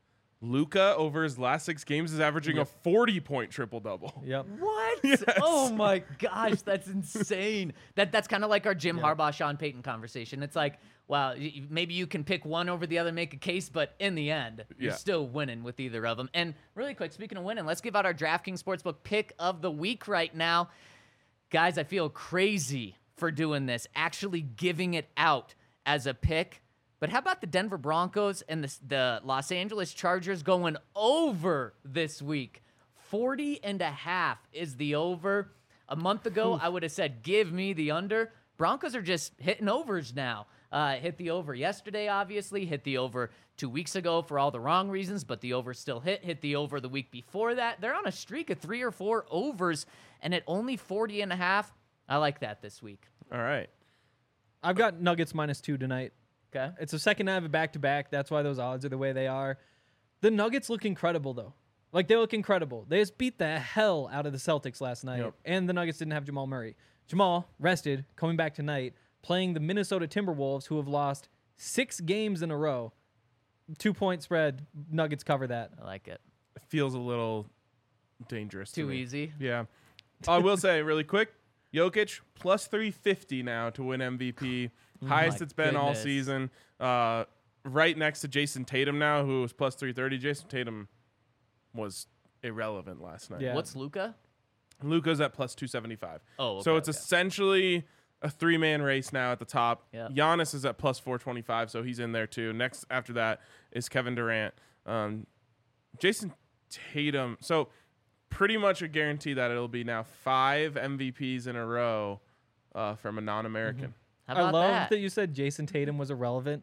Luka over his last 6 games is averaging a 40-point triple-double. Yep. What? Yes. Oh my gosh, that's insane. That's kind of like our Jim Harbaugh, Sean Payton conversation. It's like, wow, maybe you can pick one over the other, make a case, but in the end, you're Yeah. still winning with either of them. And really quick, speaking of winning, let's give out our DraftKings Sportsbook pick of the week right now. Guys, I feel crazy for doing this, actually giving it out as a pick. But how about the Denver Broncos and the Los Angeles Chargers going over this week? 40.5 is the over. A month ago, I would have said, give me the under. Broncos are just hitting overs now. Hit the over yesterday, obviously. Hit the over 2 weeks ago for all the wrong reasons, but the over still hit. Hit the over the week before that. They're on a streak of 3 or 4 overs, and at only 40.5, I like that this week. All right. I've got Nuggets -2 tonight. Okay. It's the second night of a back-to-back. That's why those odds are the way they are. The Nuggets look incredible, though. Like, they look incredible. They just beat the hell out of the Celtics last night, Yep. and the Nuggets didn't have Jamal Murray. Jamal, rested, coming back tonight, playing the Minnesota Timberwolves, who have lost 6 games in a row. 2-point spread. Nuggets cover that. I like it. It feels a little dangerous to Too me. easy. Yeah. I will say really quick, Jokic plus 350 now to win MVP. Highest my it's been all goodness. season. Right next to Jason Tatum now, who was plus 330. Jason Tatum was irrelevant last night. Yeah. What's Luka? Luka's at plus 275. Oh, so okay, it's okay. essentially a 3-man race now at the top. Yeah. Giannis is at plus 425, so he's in there too. Next after that is Kevin Durant. Jason Tatum. So pretty much a guarantee that it'll be now 5 MVPs in a row from a non-American. How I about love that? you said Jason Tatum was irrelevant.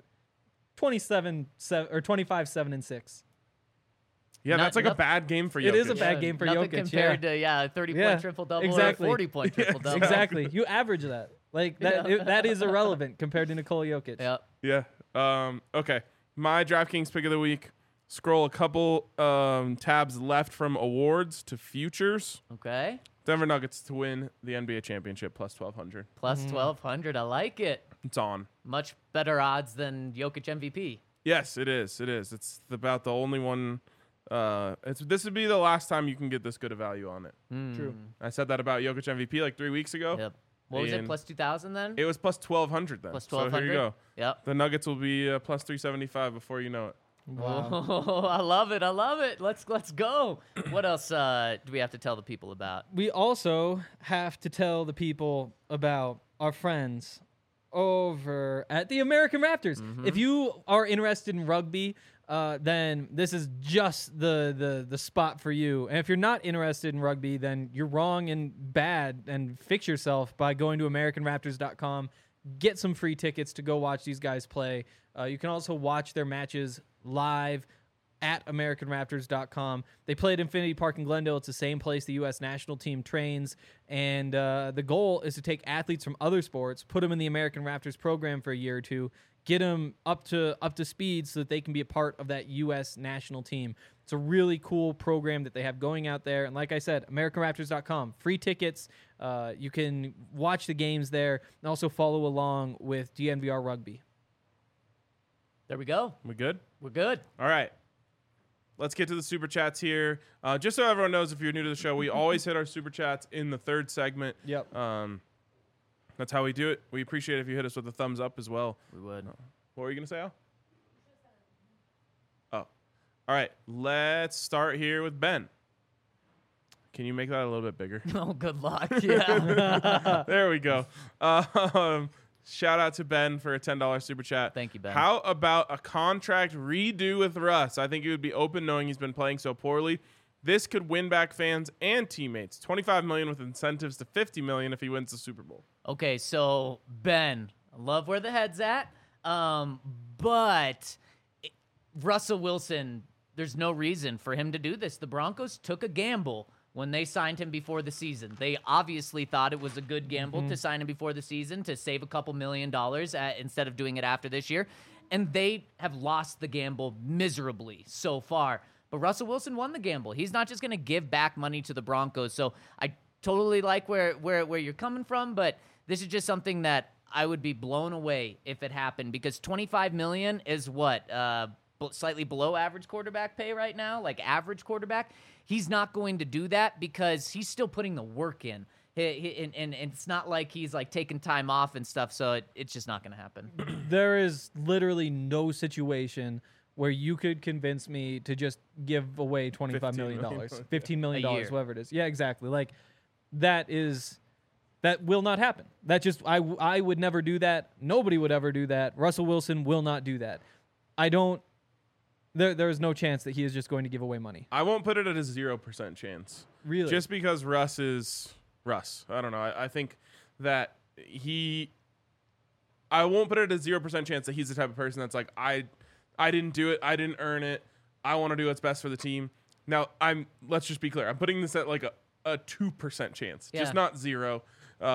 25-7-6. Yeah, Not- that's like a noth- bad game for Jokic. It is a bad game for nothing Jokic, compared to 30-point Yeah, triple-double exactly. or a 40-point triple-double. Exactly. You average that. Like that. That is irrelevant compared to Nikola Jokic. Yep. Yeah. Okay. My DraftKings pick of the week. Scroll a couple tabs left from awards to futures. Okay. Denver Nuggets to win the NBA championship plus 1,200. Plus 1,200. I like it. It's on. Much better odds than Jokic MVP. Yes, it is. It is. It's about the only one. This would be the last time you can get this good a value on it. True. I said that about Jokic MVP like 3 weeks ago. Yep. What was it? And Plus 2,000 then? It was plus 1,200 then. Plus So 1,200. here you go. Yep. The Nuggets will be plus 375 before you know it. Wow. Oh, I love it. I love it. Let's go. What else do we have to tell the people about? We also have to tell the people about our friends over at the American Raptors. If you are interested in rugby, then this is just the spot for you. And if you're not interested in rugby, then you're wrong and bad, and fix yourself by going to AmericanRaptors.com. Get some free tickets to go watch these guys play. You can also watch their matches live at AmericanRaptors.com. They play at Infinity Park in Glendale. It's the same place the U.S. national team trains. And the goal is to take athletes from other sports, put them in the American Raptors program for a year or two, get them up to speed so that they can be a part of that U.S. national team. It's a really cool program that they have going out there. And like I said, AmericanRaptors.com, free tickets. You can watch the games there and also follow along with DNVR Rugby. There we go. We good? We're good. All right. Let's get to the super chats here. Just so everyone knows, if you're new to the show, we always hit our super chats in the third segment. Yep. That's how we do it. We appreciate it if you hit us with a thumbs up as well. We would. What were you going to say, Al? Oh. All right. Let's start here with Ben. Can you make that a little bit bigger? Oh, good luck. Yeah. There we go. Shout out to Ben for a $10 super chat. Thank you, Ben. How about a contract redo with Russ? I think he would be open knowing he's been playing so poorly. This could win back fans and teammates. $25 million with incentives to $50 million if he wins the Super Bowl. Okay, so Ben, I love where the head's at, but Russell Wilson, there's no reason for him to do this. The Broncos took a gamble when they signed him before the season. They obviously thought it was a good gamble to sign him before the season to save a couple $1 million instead of doing it after this year, and they have lost the gamble miserably so far. But Russell Wilson won the gamble. He's not just going to give back money to the Broncos. So I totally like where you're coming from, but this is just something that I would be blown away if it happened, because $25 million is what slightly below average quarterback pay right now, like average quarterback. He's not going to do that because he's still putting the work in. And it's not like he's like taking time off and stuff, so it's just not going to happen. There is literally no situation where you could convince me to just give away $25 million, $15 million, A year. whatever it is. Yeah, exactly. Like that will not happen. That just I would never do that. Nobody would ever do that. Russell Wilson will not do that. There is no chance that he is just going to give away money. I won't put it at a 0% chance. Really? Just because Russ is Russ. I don't know. I think that I won't put it at a 0% chance that he's the type of person that's like, I didn't do it. I didn't earn it. I want to do what's best for the team. Now, let's just be clear. I'm putting this at like a 2% chance, just not 0.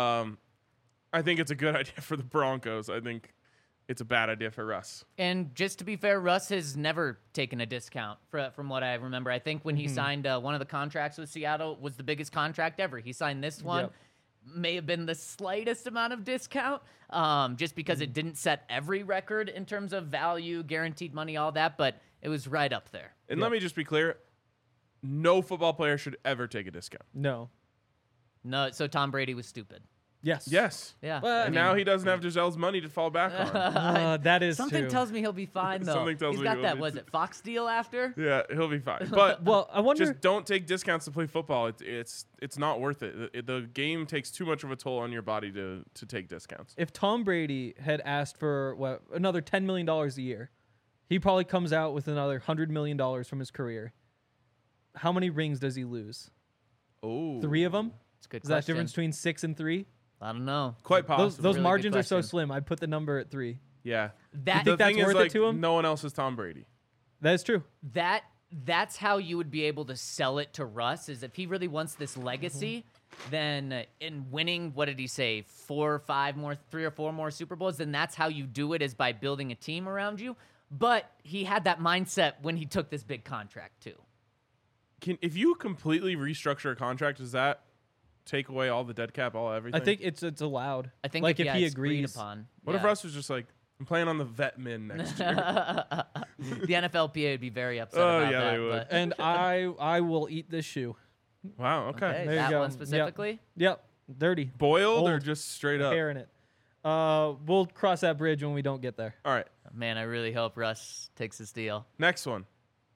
I think it's a good idea for the Broncos. I think it's a bad idea for Russ. And just to be fair, Russ has never taken a discount from what I remember. I think when he signed one of the contracts with Seattle was the biggest contract ever. He signed this one. Yep. May have been the slightest amount of discount just because it didn't set every record in terms of value, guaranteed money, all that, but it was right up there. And let me just be clear. No football player should ever take a discount. No. No, so Tom Brady was stupid. Yes. Yes. Yeah. Well, And now he doesn't have Giselle's money to fall back on. That is Something true. tells me he'll be fine, though. Something tells He's me got he'll that, be was too. it Fox deal after? Yeah, he'll be fine. But Well, I wonder. just don't take discounts to play football. It's not worth it. The game takes too much of a toll on your body to take discounts. If Tom Brady had asked for another $10 million a year, he probably comes out with another $100 million from his career. How many rings does he lose? Oh, 3 of them? It's a good Is that question. difference between 6 and 3? I don't know. quite possible. Those Really good margins are so question. slim. I'd put the number at 3. Yeah. That- the think that's thing is, worth it like, to him? no one else is Tom Brady. That is true. That's how you would be able to sell it to Russ, is if he really wants this legacy, then in winning, what did he say, 3 or 4 more Super Bowls, then that's how you do it, is by building a team around you. But he had that mindset when he took this big contract too. If you completely restructure a contract, does that take away all the dead cap, all everything? I think it's allowed. I think like if he it's agreed agrees. upon. What if Russ was just like, I'm playing on the vet min next year? The NFLPA would be very upset Oh, about yeah, that. they would. but- And I will eat this shoe. Wow. Okay. Okay, There you that go. one Yep. specifically. Yep. Dirty. Boiled or Old. just straight up? Hair in it. We'll cross that bridge when we don't get there. All right. Man, I really hope Russ takes this deal. Next one.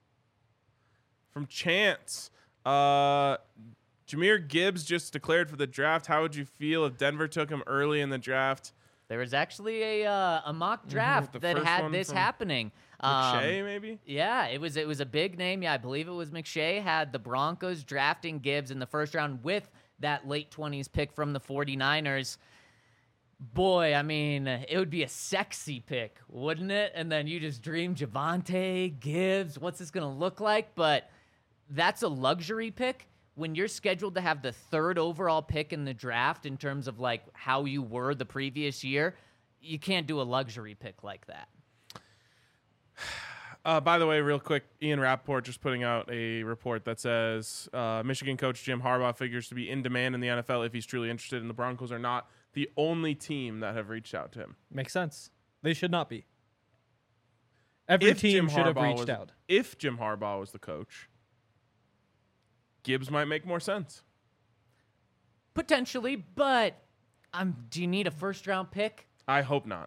From Chance. Jameer Gibbs just declared for the draft. How would you feel if Denver took him early in the draft? There was actually a mock draft The that first had one this from happening. McShay, maybe? Yeah, it was a big name. Yeah, I believe it was McShay. Had the Broncos drafting Gibbs in the first round with that late 20s pick from the 49ers. Boy, I mean, it would be a sexy pick, wouldn't it? And then you just dream Javonte, Gibbs, what's this going to look like? But that's a luxury pick. When you're scheduled to have the 3rd overall pick in the draft in terms of like how you were the previous year, you can't do a luxury pick like that. By the way, real quick, Ian Rappaport just putting out a report that says Michigan coach Jim Harbaugh figures to be in demand in the NFL if he's truly interested, and the Broncos are not the only team that have reached out to him. Makes sense. They should not be. Every team should have reached out. If Jim Harbaugh was the coach, Gibbs might make more sense. Potentially, but do you need a 1st-round pick? I hope not.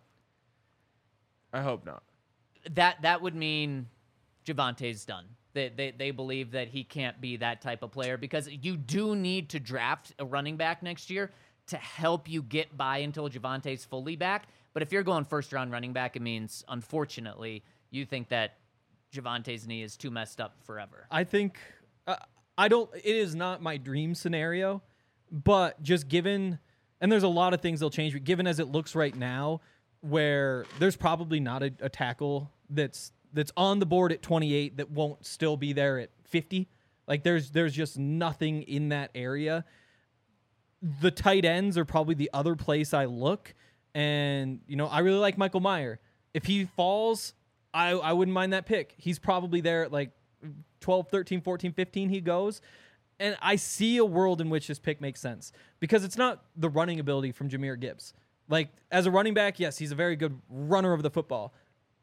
That would mean Javonte's done. They believe that he can't be that type of player because you do need to draft a running back next year to help you get by until Javonte's fully back. But if you're going 1st-round running back, it means, unfortunately, you think that Javonte's knee is too messed up forever. I think it is not my dream scenario, but just given, and there's a lot of things they'll change, but given as it looks right now, where there's probably not a tackle that's on the board at 28 that won't still be there at 50. Like there's just nothing in that area. The tight ends are probably the other place I look, and I really like Michael Mayer. If he falls, I wouldn't mind that pick. He's probably there at like 12, 13, 14, 15 he goes. And I see a world in which this pick makes sense because it's not the running ability from Jameer Gibbs. Like, as a running back, yes, he's a very good runner of the football.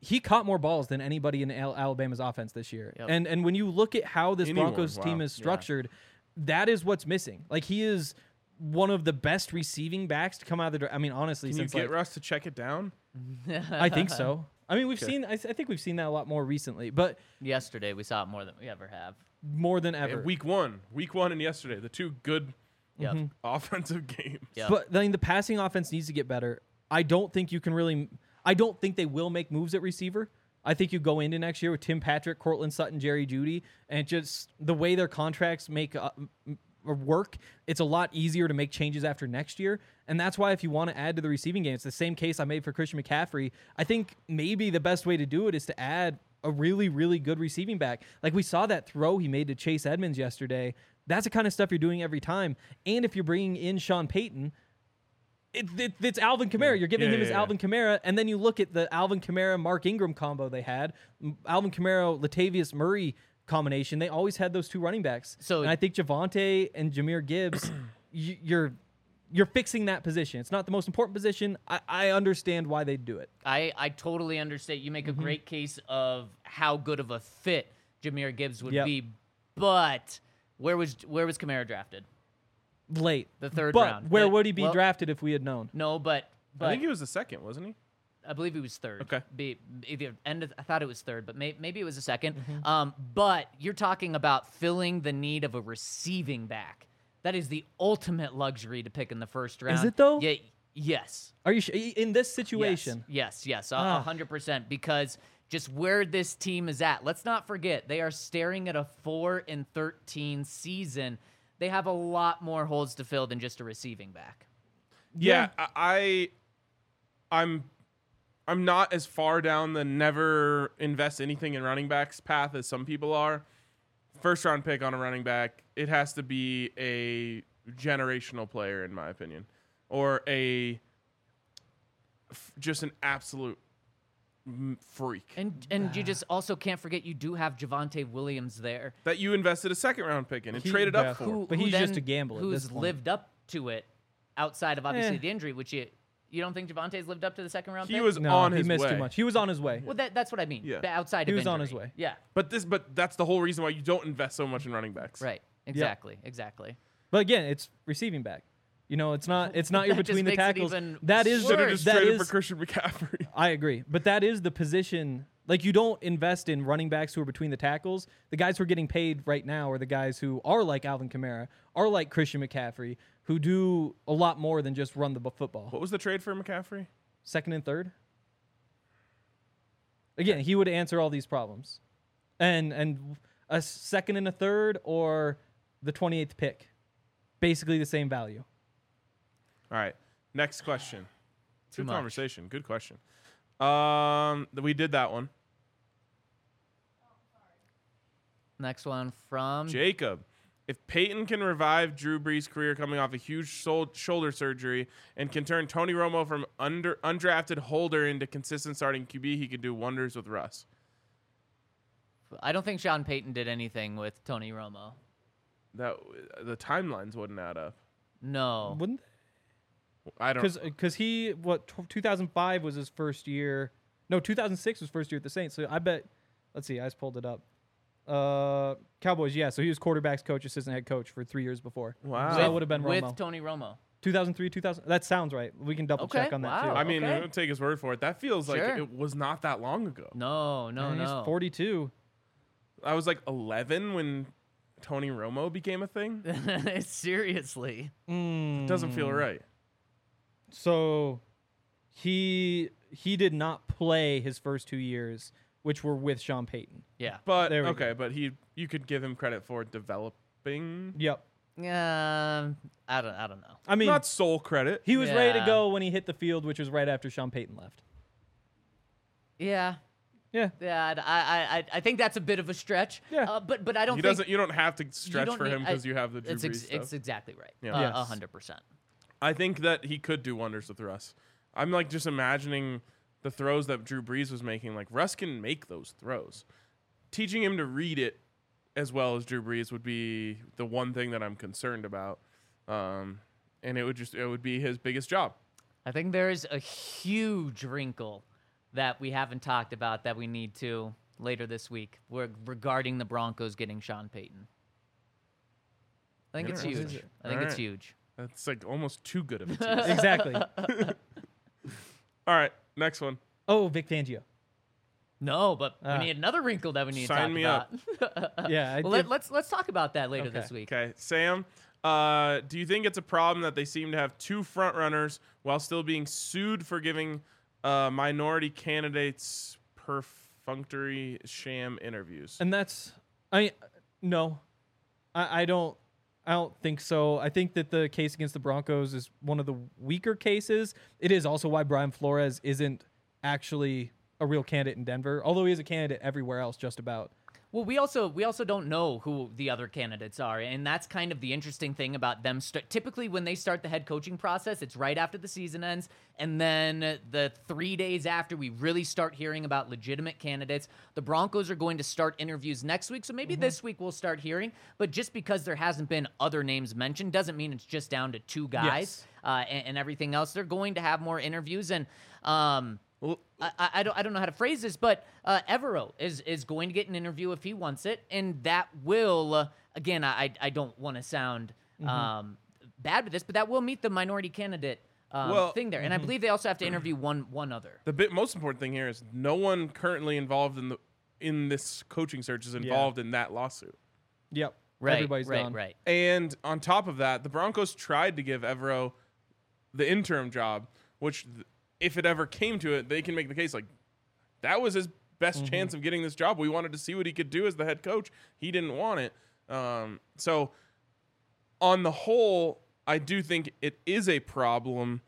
he caught more balls than anybody in Alabama's offense this year. Yep. And when you look at how this Anyone, Broncos team wow. is structured, that is what's missing. Like, he is one of the best receiving backs to come out of the draft. I mean, honestly, Can you since get like, Russ to check it down? I think so. I mean, we've seen. I think we've seen that a lot more recently, but Yesterday, we saw it more than we ever have. more than ever. Week one, and yesterday, the two good Yep. offensive games. Yep. But I mean, the passing offense needs to get better. I don't think you can really. I don't think they will make moves at receiver. I think you go into next year with Tim Patrick, Cortland Sutton, Jerry Jeudy, and just the way their contracts make work, it's a lot easier to make changes after next year. And that's why if you want to add to the receiving game, it's the same case I made for Christian McCaffrey. I think maybe the best way to do it is to add a really, really good receiving back. Like we saw that throw he made to Chase Edmonds yesterday. That's the kind of stuff you're doing every time. And if you're bringing in Sean Payton, it's Alvin Kamara. You're giving him his Alvin Kamara, and then you look at the Alvin Kamara Mark Ingram combo they had, Alvin Kamara Latavius Murray combination. They always had those two running backs. So- and I think Javonte and Jahmyr Gibbs, you're fixing that position. It's not the most important position. I understand why they do it. I totally understand. You make a Mm-hmm. great case of how good of a fit Jahmyr Gibbs would Yep. be, but where was Kamara drafted? Late, The third but round. where But- would he be well, drafted if we had known? No, but I think he was the second, wasn't he? I believe he was third. Okay. Either I thought it was third, but maybe it was a second. Mm-hmm. But you're talking about filling the need of a receiving back. That is the ultimate luxury to pick in the first round. it, though? Yeah. Yes. Are you in this situation? Yes. 100%. Ah. Because just where this team is at, let's not forget they are staring at a 4-13 season. They have a lot more holes to fill than just a receiving back. Yeah, I'm not as far down the never invest anything in running backs path as some people are. First round pick on a running back, it has to be a generational player in my opinion, or just an absolute freak And you just also can't forget you do have Javonte Williams there. that you invested a second round pick in and He- traded yeah. up for. But he's then- just a gamble at Who's this point. lived up to it outside of obviously Eh. the injury, which you don't think Javonte's lived up to the second round He pick? was No, on he his missed way. too much. He was on his way. Well, that's what I mean. Yeah. The outside He of was on injury. his way. Yeah. But that's the whole reason why you don't invest so much in running backs. Right. Exactly. But again, it's receiving back. You know, it's not your That just between the makes it tackles. even That is Should have worse. just that traded is- for Christian McCaffrey. I agree. But that is the position. Like, you don't invest in running backs who are between the tackles. The guys who are getting paid right now are the guys who are like Alvin Kamara, are like Christian McCaffrey, who do a lot more than just run the football. What was the trade for McCaffrey? Second and third. Again, he would answer all these problems. And a second and a third or the 28th pick. Basically the same value. All right. Next question. Too Good much. conversation. Good question. We did that one. Next one from Jacob. If Peyton can revive Drew Brees' career coming off a huge shoulder surgery and can turn Tony Romo from undrafted holder into consistent starting QB, he could do wonders with Russ. I don't think Sean Payton did anything with Tony Romo. The timelines wouldn't add up. No. Wouldn't I don't. Because 2005 was his first year. No, 2006 was first year at the Saints. So I bet. Let's see. I just pulled it up. Cowboys. Yeah. So he was quarterbacks coach, assistant head coach for 3 years before. Wow. So that would have been with Romo. Tony Romo. 2003, 2000. That sounds right. We can double check Okay, on that wow. too. I mean, Okay. I don't take his word for it. That feels like Sure. it was not that long ago. No. And he's 42. I was like 11 when Tony Romo became a thing. Seriously. Doesn't feel right. So he did not play his first 2 years, which were with Sean Payton. Yeah. But There we okay, but you could give him credit for developing. Yep. I don't know. I mean, Not sole credit. he was ready to Yeah. go when he hit the field, which was right after Sean Payton left. Yeah. Yeah. Yeah, I think that's a bit of a stretch. Yeah. But I don't He think doesn't. You don't have to stretch don't for need- him because you have the Drew Brees stuff. It's exactly right. Yeah. Yes. 100%. I think that he could do wonders with Russ. I'm like just imagining the throws that Drew Brees was making. Like Russ can make those throws. Teaching him to read it as well as Drew Brees would be the one thing that I'm concerned about. And it would be his biggest job. I think there is a huge wrinkle that we haven't talked about that we need to later this week regarding the Broncos getting Sean Payton? I think it's Interesting. huge. I think All it's right. huge. That's like almost too good of a tease. Exactly. All right, next one. Oh, Vic Fangio. No, but we Ah. need another wrinkle that we need to Sign talk me about. up. Yeah. I Well, did- let's talk about that later Okay. this week. Okay, Sam, do you think it's a problem that they seem to have two front runners while still being sued for giving minority candidates perfunctory sham interviews? And that's no, I don't think so. I think that the case against the Broncos is one of the weaker cases. It is also why Brian Flores isn't actually a real candidate in Denver, although he is a candidate everywhere else just about. Well, we also don't know who the other candidates are, and that's kind of the interesting thing about them. Typically, when they start the head coaching process, it's right after the season ends, and then the 3 days after we really start hearing about legitimate candidates. The Broncos are going to start interviews next week, so maybe this week we'll start hearing. But just because there hasn't been other names mentioned doesn't mean it's just down to two guys and everything else. They're going to have more interviews, and I don't know how to phrase this, but Evero is going to get an interview if he wants it, and that will again. I don't want to sound bad with this, but that will meet the minority candidate thing there, and I believe they also have to interview one other. The most important thing here is no one currently involved in this coaching search is involved in that lawsuit. Yep. Right, Everybody's right, gone. right. And on top of that, the Broncos tried to give Evero the interim job, which if it ever came to it, they can make the case like that was his best chance of getting this job. We wanted to see what he could do as the head coach. He didn't want it. So on the whole, I do think it is a problem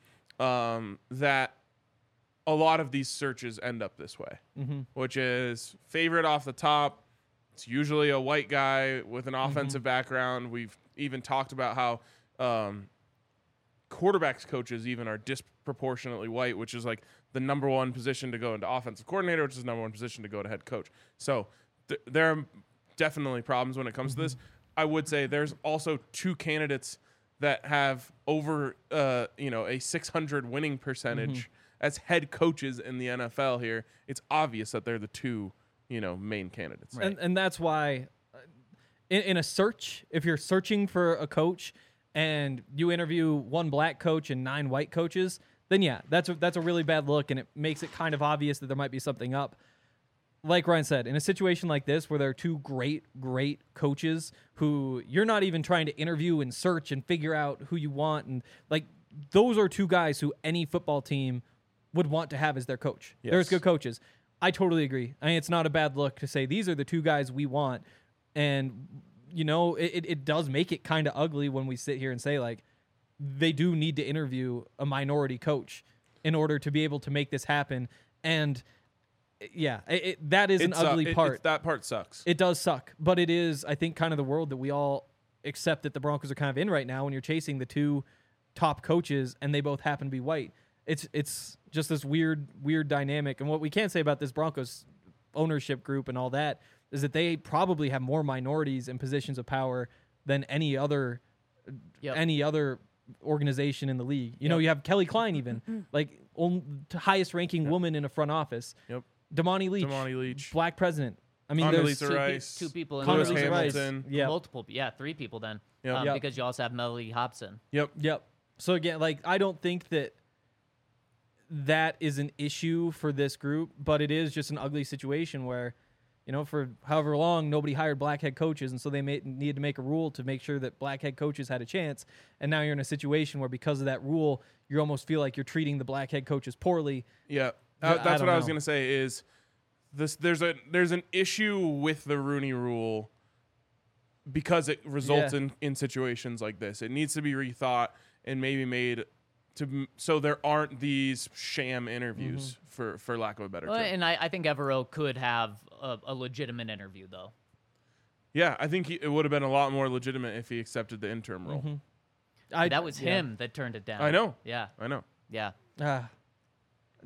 that a lot of these searches end up this way, which is favorite off the top. It's usually a white guy with an offensive background. We've even talked about how quarterbacks coaches even are disproportionately white, which is like the number one position to go into offensive coordinator, which is the number one position to go to head coach. So there are definitely problems when it comes to this. I would say there's also two candidates that have over a 600 winning percentage as head coaches in the NFL here. It's obvious that they're the two main candidates. Right. And that's why in a search, if you're searching for a coach and you interview one black coach and 9 white coaches, then yeah, that's a really bad look, and it makes it kind of obvious that there might be something up. Like Ryan said, in a situation like this where there are two great coaches who you're not even trying to interview and search and figure out who you want, and like those are two guys who any football team would want to have as their coach. Yes. There's good coaches. I totally agree. I mean, it's not a bad look to say these are the two guys we want, and it does make it kind of ugly when we sit here and say like they do need to interview a minority coach in order to be able to make this happen. And yeah, that is an ugly part. That part sucks. It does suck, but it is, I think, kind of the world that we all accept that the Broncos are kind of in right now when you're chasing the two top coaches and they both happen to be white. It's just this weird dynamic. And what we can say about this Broncos ownership group and all that is that they probably have more minorities in positions of power than any other organization in the league. You know, you have Kelly Klein even, like highest ranking woman in a front office. Yep. Damani Leach. Black president. I mean, there's Condoleezza Rice. Two people in Lewis the room. Hamilton. Yeah. Multiple, 3 people then, Yep. because you also have Melody Hobson. Yep. So again, like I don't think that is an issue for this group, but it is just an ugly situation where, for however long nobody hired black head coaches, and so they needed to make a rule to make sure that black head coaches had a chance. And now you're in a situation where because of that rule, you almost feel like you're treating the black head coaches poorly. Yeah. I That's don't what I was know. going to say is this. There's an issue with the Rooney Rule because it results in situations like this. It needs to be rethought and maybe made so there aren't these sham interviews for lack of a better term. And I think Evero could have a legitimate interview, though. Yeah, I think it would have been a lot more legitimate if he accepted the interim role. That was him that turned it down. I know. Yeah. I know. Yeah. Yeah.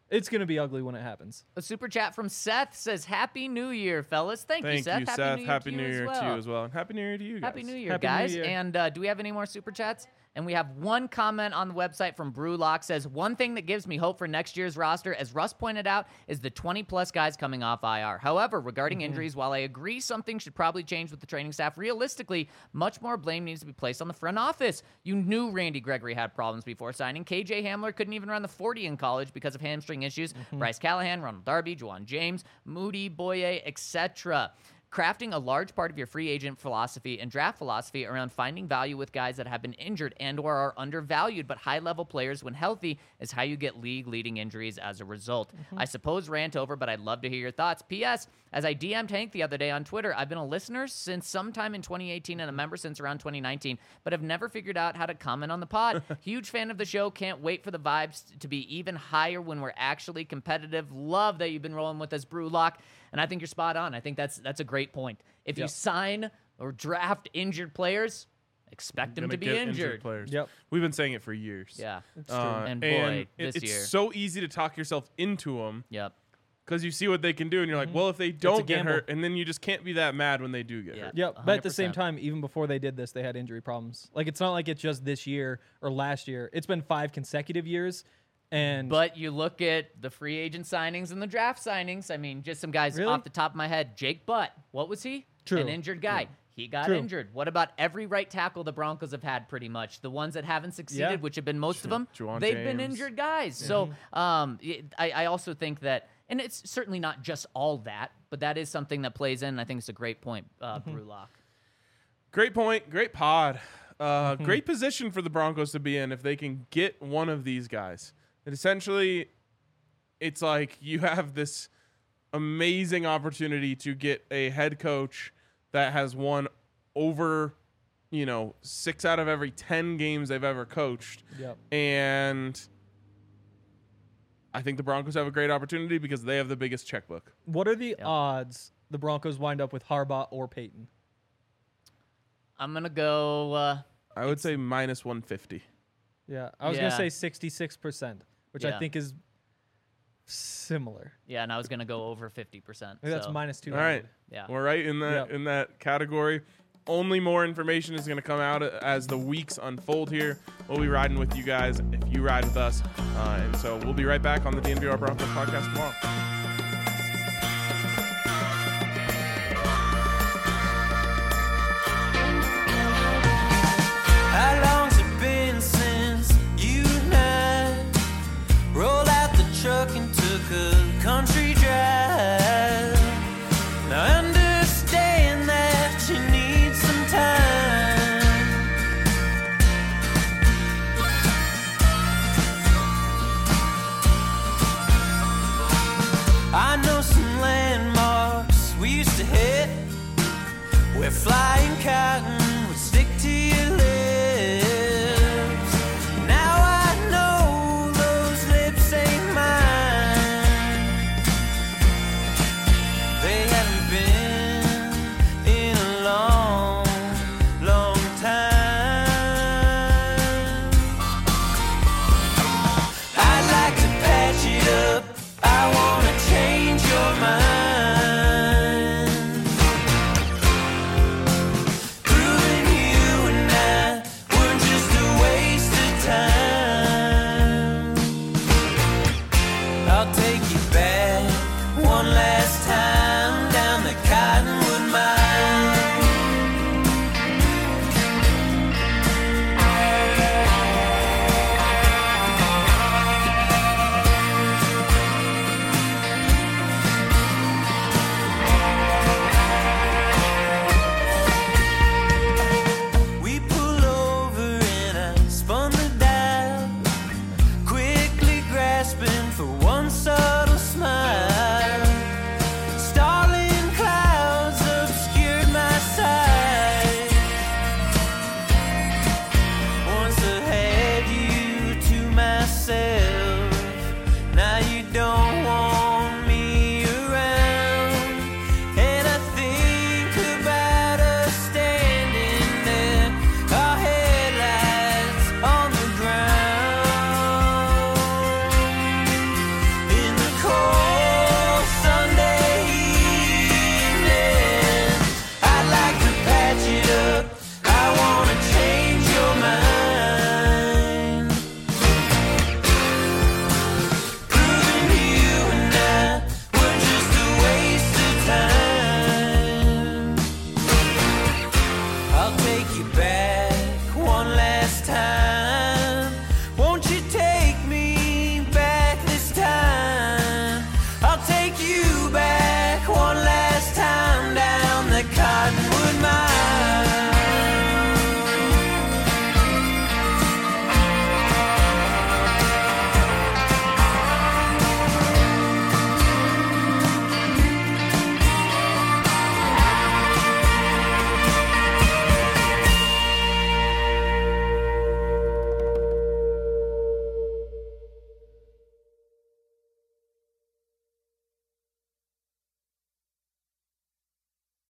It's going to be ugly when it happens. A super chat from Seth says, Happy New Year, fellas. Thank you, Seth. Happy New Year to to you as well. And Happy New Year to you guys. Happy New Year, Happy New guys. Year. And do we have any more super chats? And we have one comment on the website from Brewlock says, one thing that gives me hope for next year's roster, as Russ pointed out, is the 20-plus guys coming off IR. However, regarding injuries, while I agree something should probably change with the training staff, realistically, much more blame needs to be placed on the front office. You knew Randy Gregory had problems before signing. KJ Hamler couldn't even run the 40 in college because of hamstring issues. Bryce Callahan, Ronald Darby, Juwan James, Moody, Boye, etc. Crafting a large part of your free agent philosophy and draft philosophy around finding value with guys that have been injured and or are undervalued but high-level players when healthy is how you get league-leading injuries as a result. I suppose rant over, but I'd love to hear your thoughts. P.S. As I DM'd Hank the other day on Twitter, I've been a listener since sometime in 2018 and a member since around 2019, but have never figured out how to comment on the pod. Huge fan of the show. Can't wait for the vibes to be even higher when we're actually competitive. Love that you've been rolling with us, Brewlock. And I think you're spot on. I think that's a great point. If you sign or draft injured players, expect them to be injured. Players. Yep. We've been saying it for years. Yeah. It's true. And boy, this it's year. so easy to talk yourself into them Yep. because you see what they can do, and you're like, well, if they don't get gamble. hurt, and then you just can't be that mad when they do get Yeah. hurt. Yep, but at the same 100%. time, even before they did this, they had injury problems. Like, it's not like it's just this year or last year. It's been 5 consecutive years. And But you look at the free agent signings and the draft signings. I mean, just some guys Really? off the top of my head. Jake Butt, what was he? True. An injured guy. He got True. injured. What about every right tackle the Broncos have had pretty much? The ones that haven't succeeded, Yeah. which have been most of them, Juwan they've been James. injured guys. So I also think that, and it's certainly not just all that, but that is something that plays in. I think it's a great point, Brewlock. Great point. Great pod. Great position for the Broncos to be in if they can get one of these guys. And essentially, it's like you have this amazing opportunity to get a head coach that has won over, 6 out of every 10 games they've ever coached. Yep. And I think the Broncos have a great opportunity because they have the biggest checkbook. What are the odds the Broncos wind up with Harbaugh or Peyton? I'm going to go... I would say minus 150. Yeah, I was going to Yeah. say 66%, which Yeah. I think is similar. yeah, and I was going to go over 50%. I think that's so, minus 200. All right. Yeah. We're right in that Yep. in that category. Only more information is going to come out as the weeks unfold here. We'll be riding with you guys if you ride with us. And so we'll be right back on the DNVR Broncos podcast tomorrow. How long's it been since you and I rolled out the truck and took a country drive? Now I understand that you need some time. I know some landmarks we used to hit where flying cotton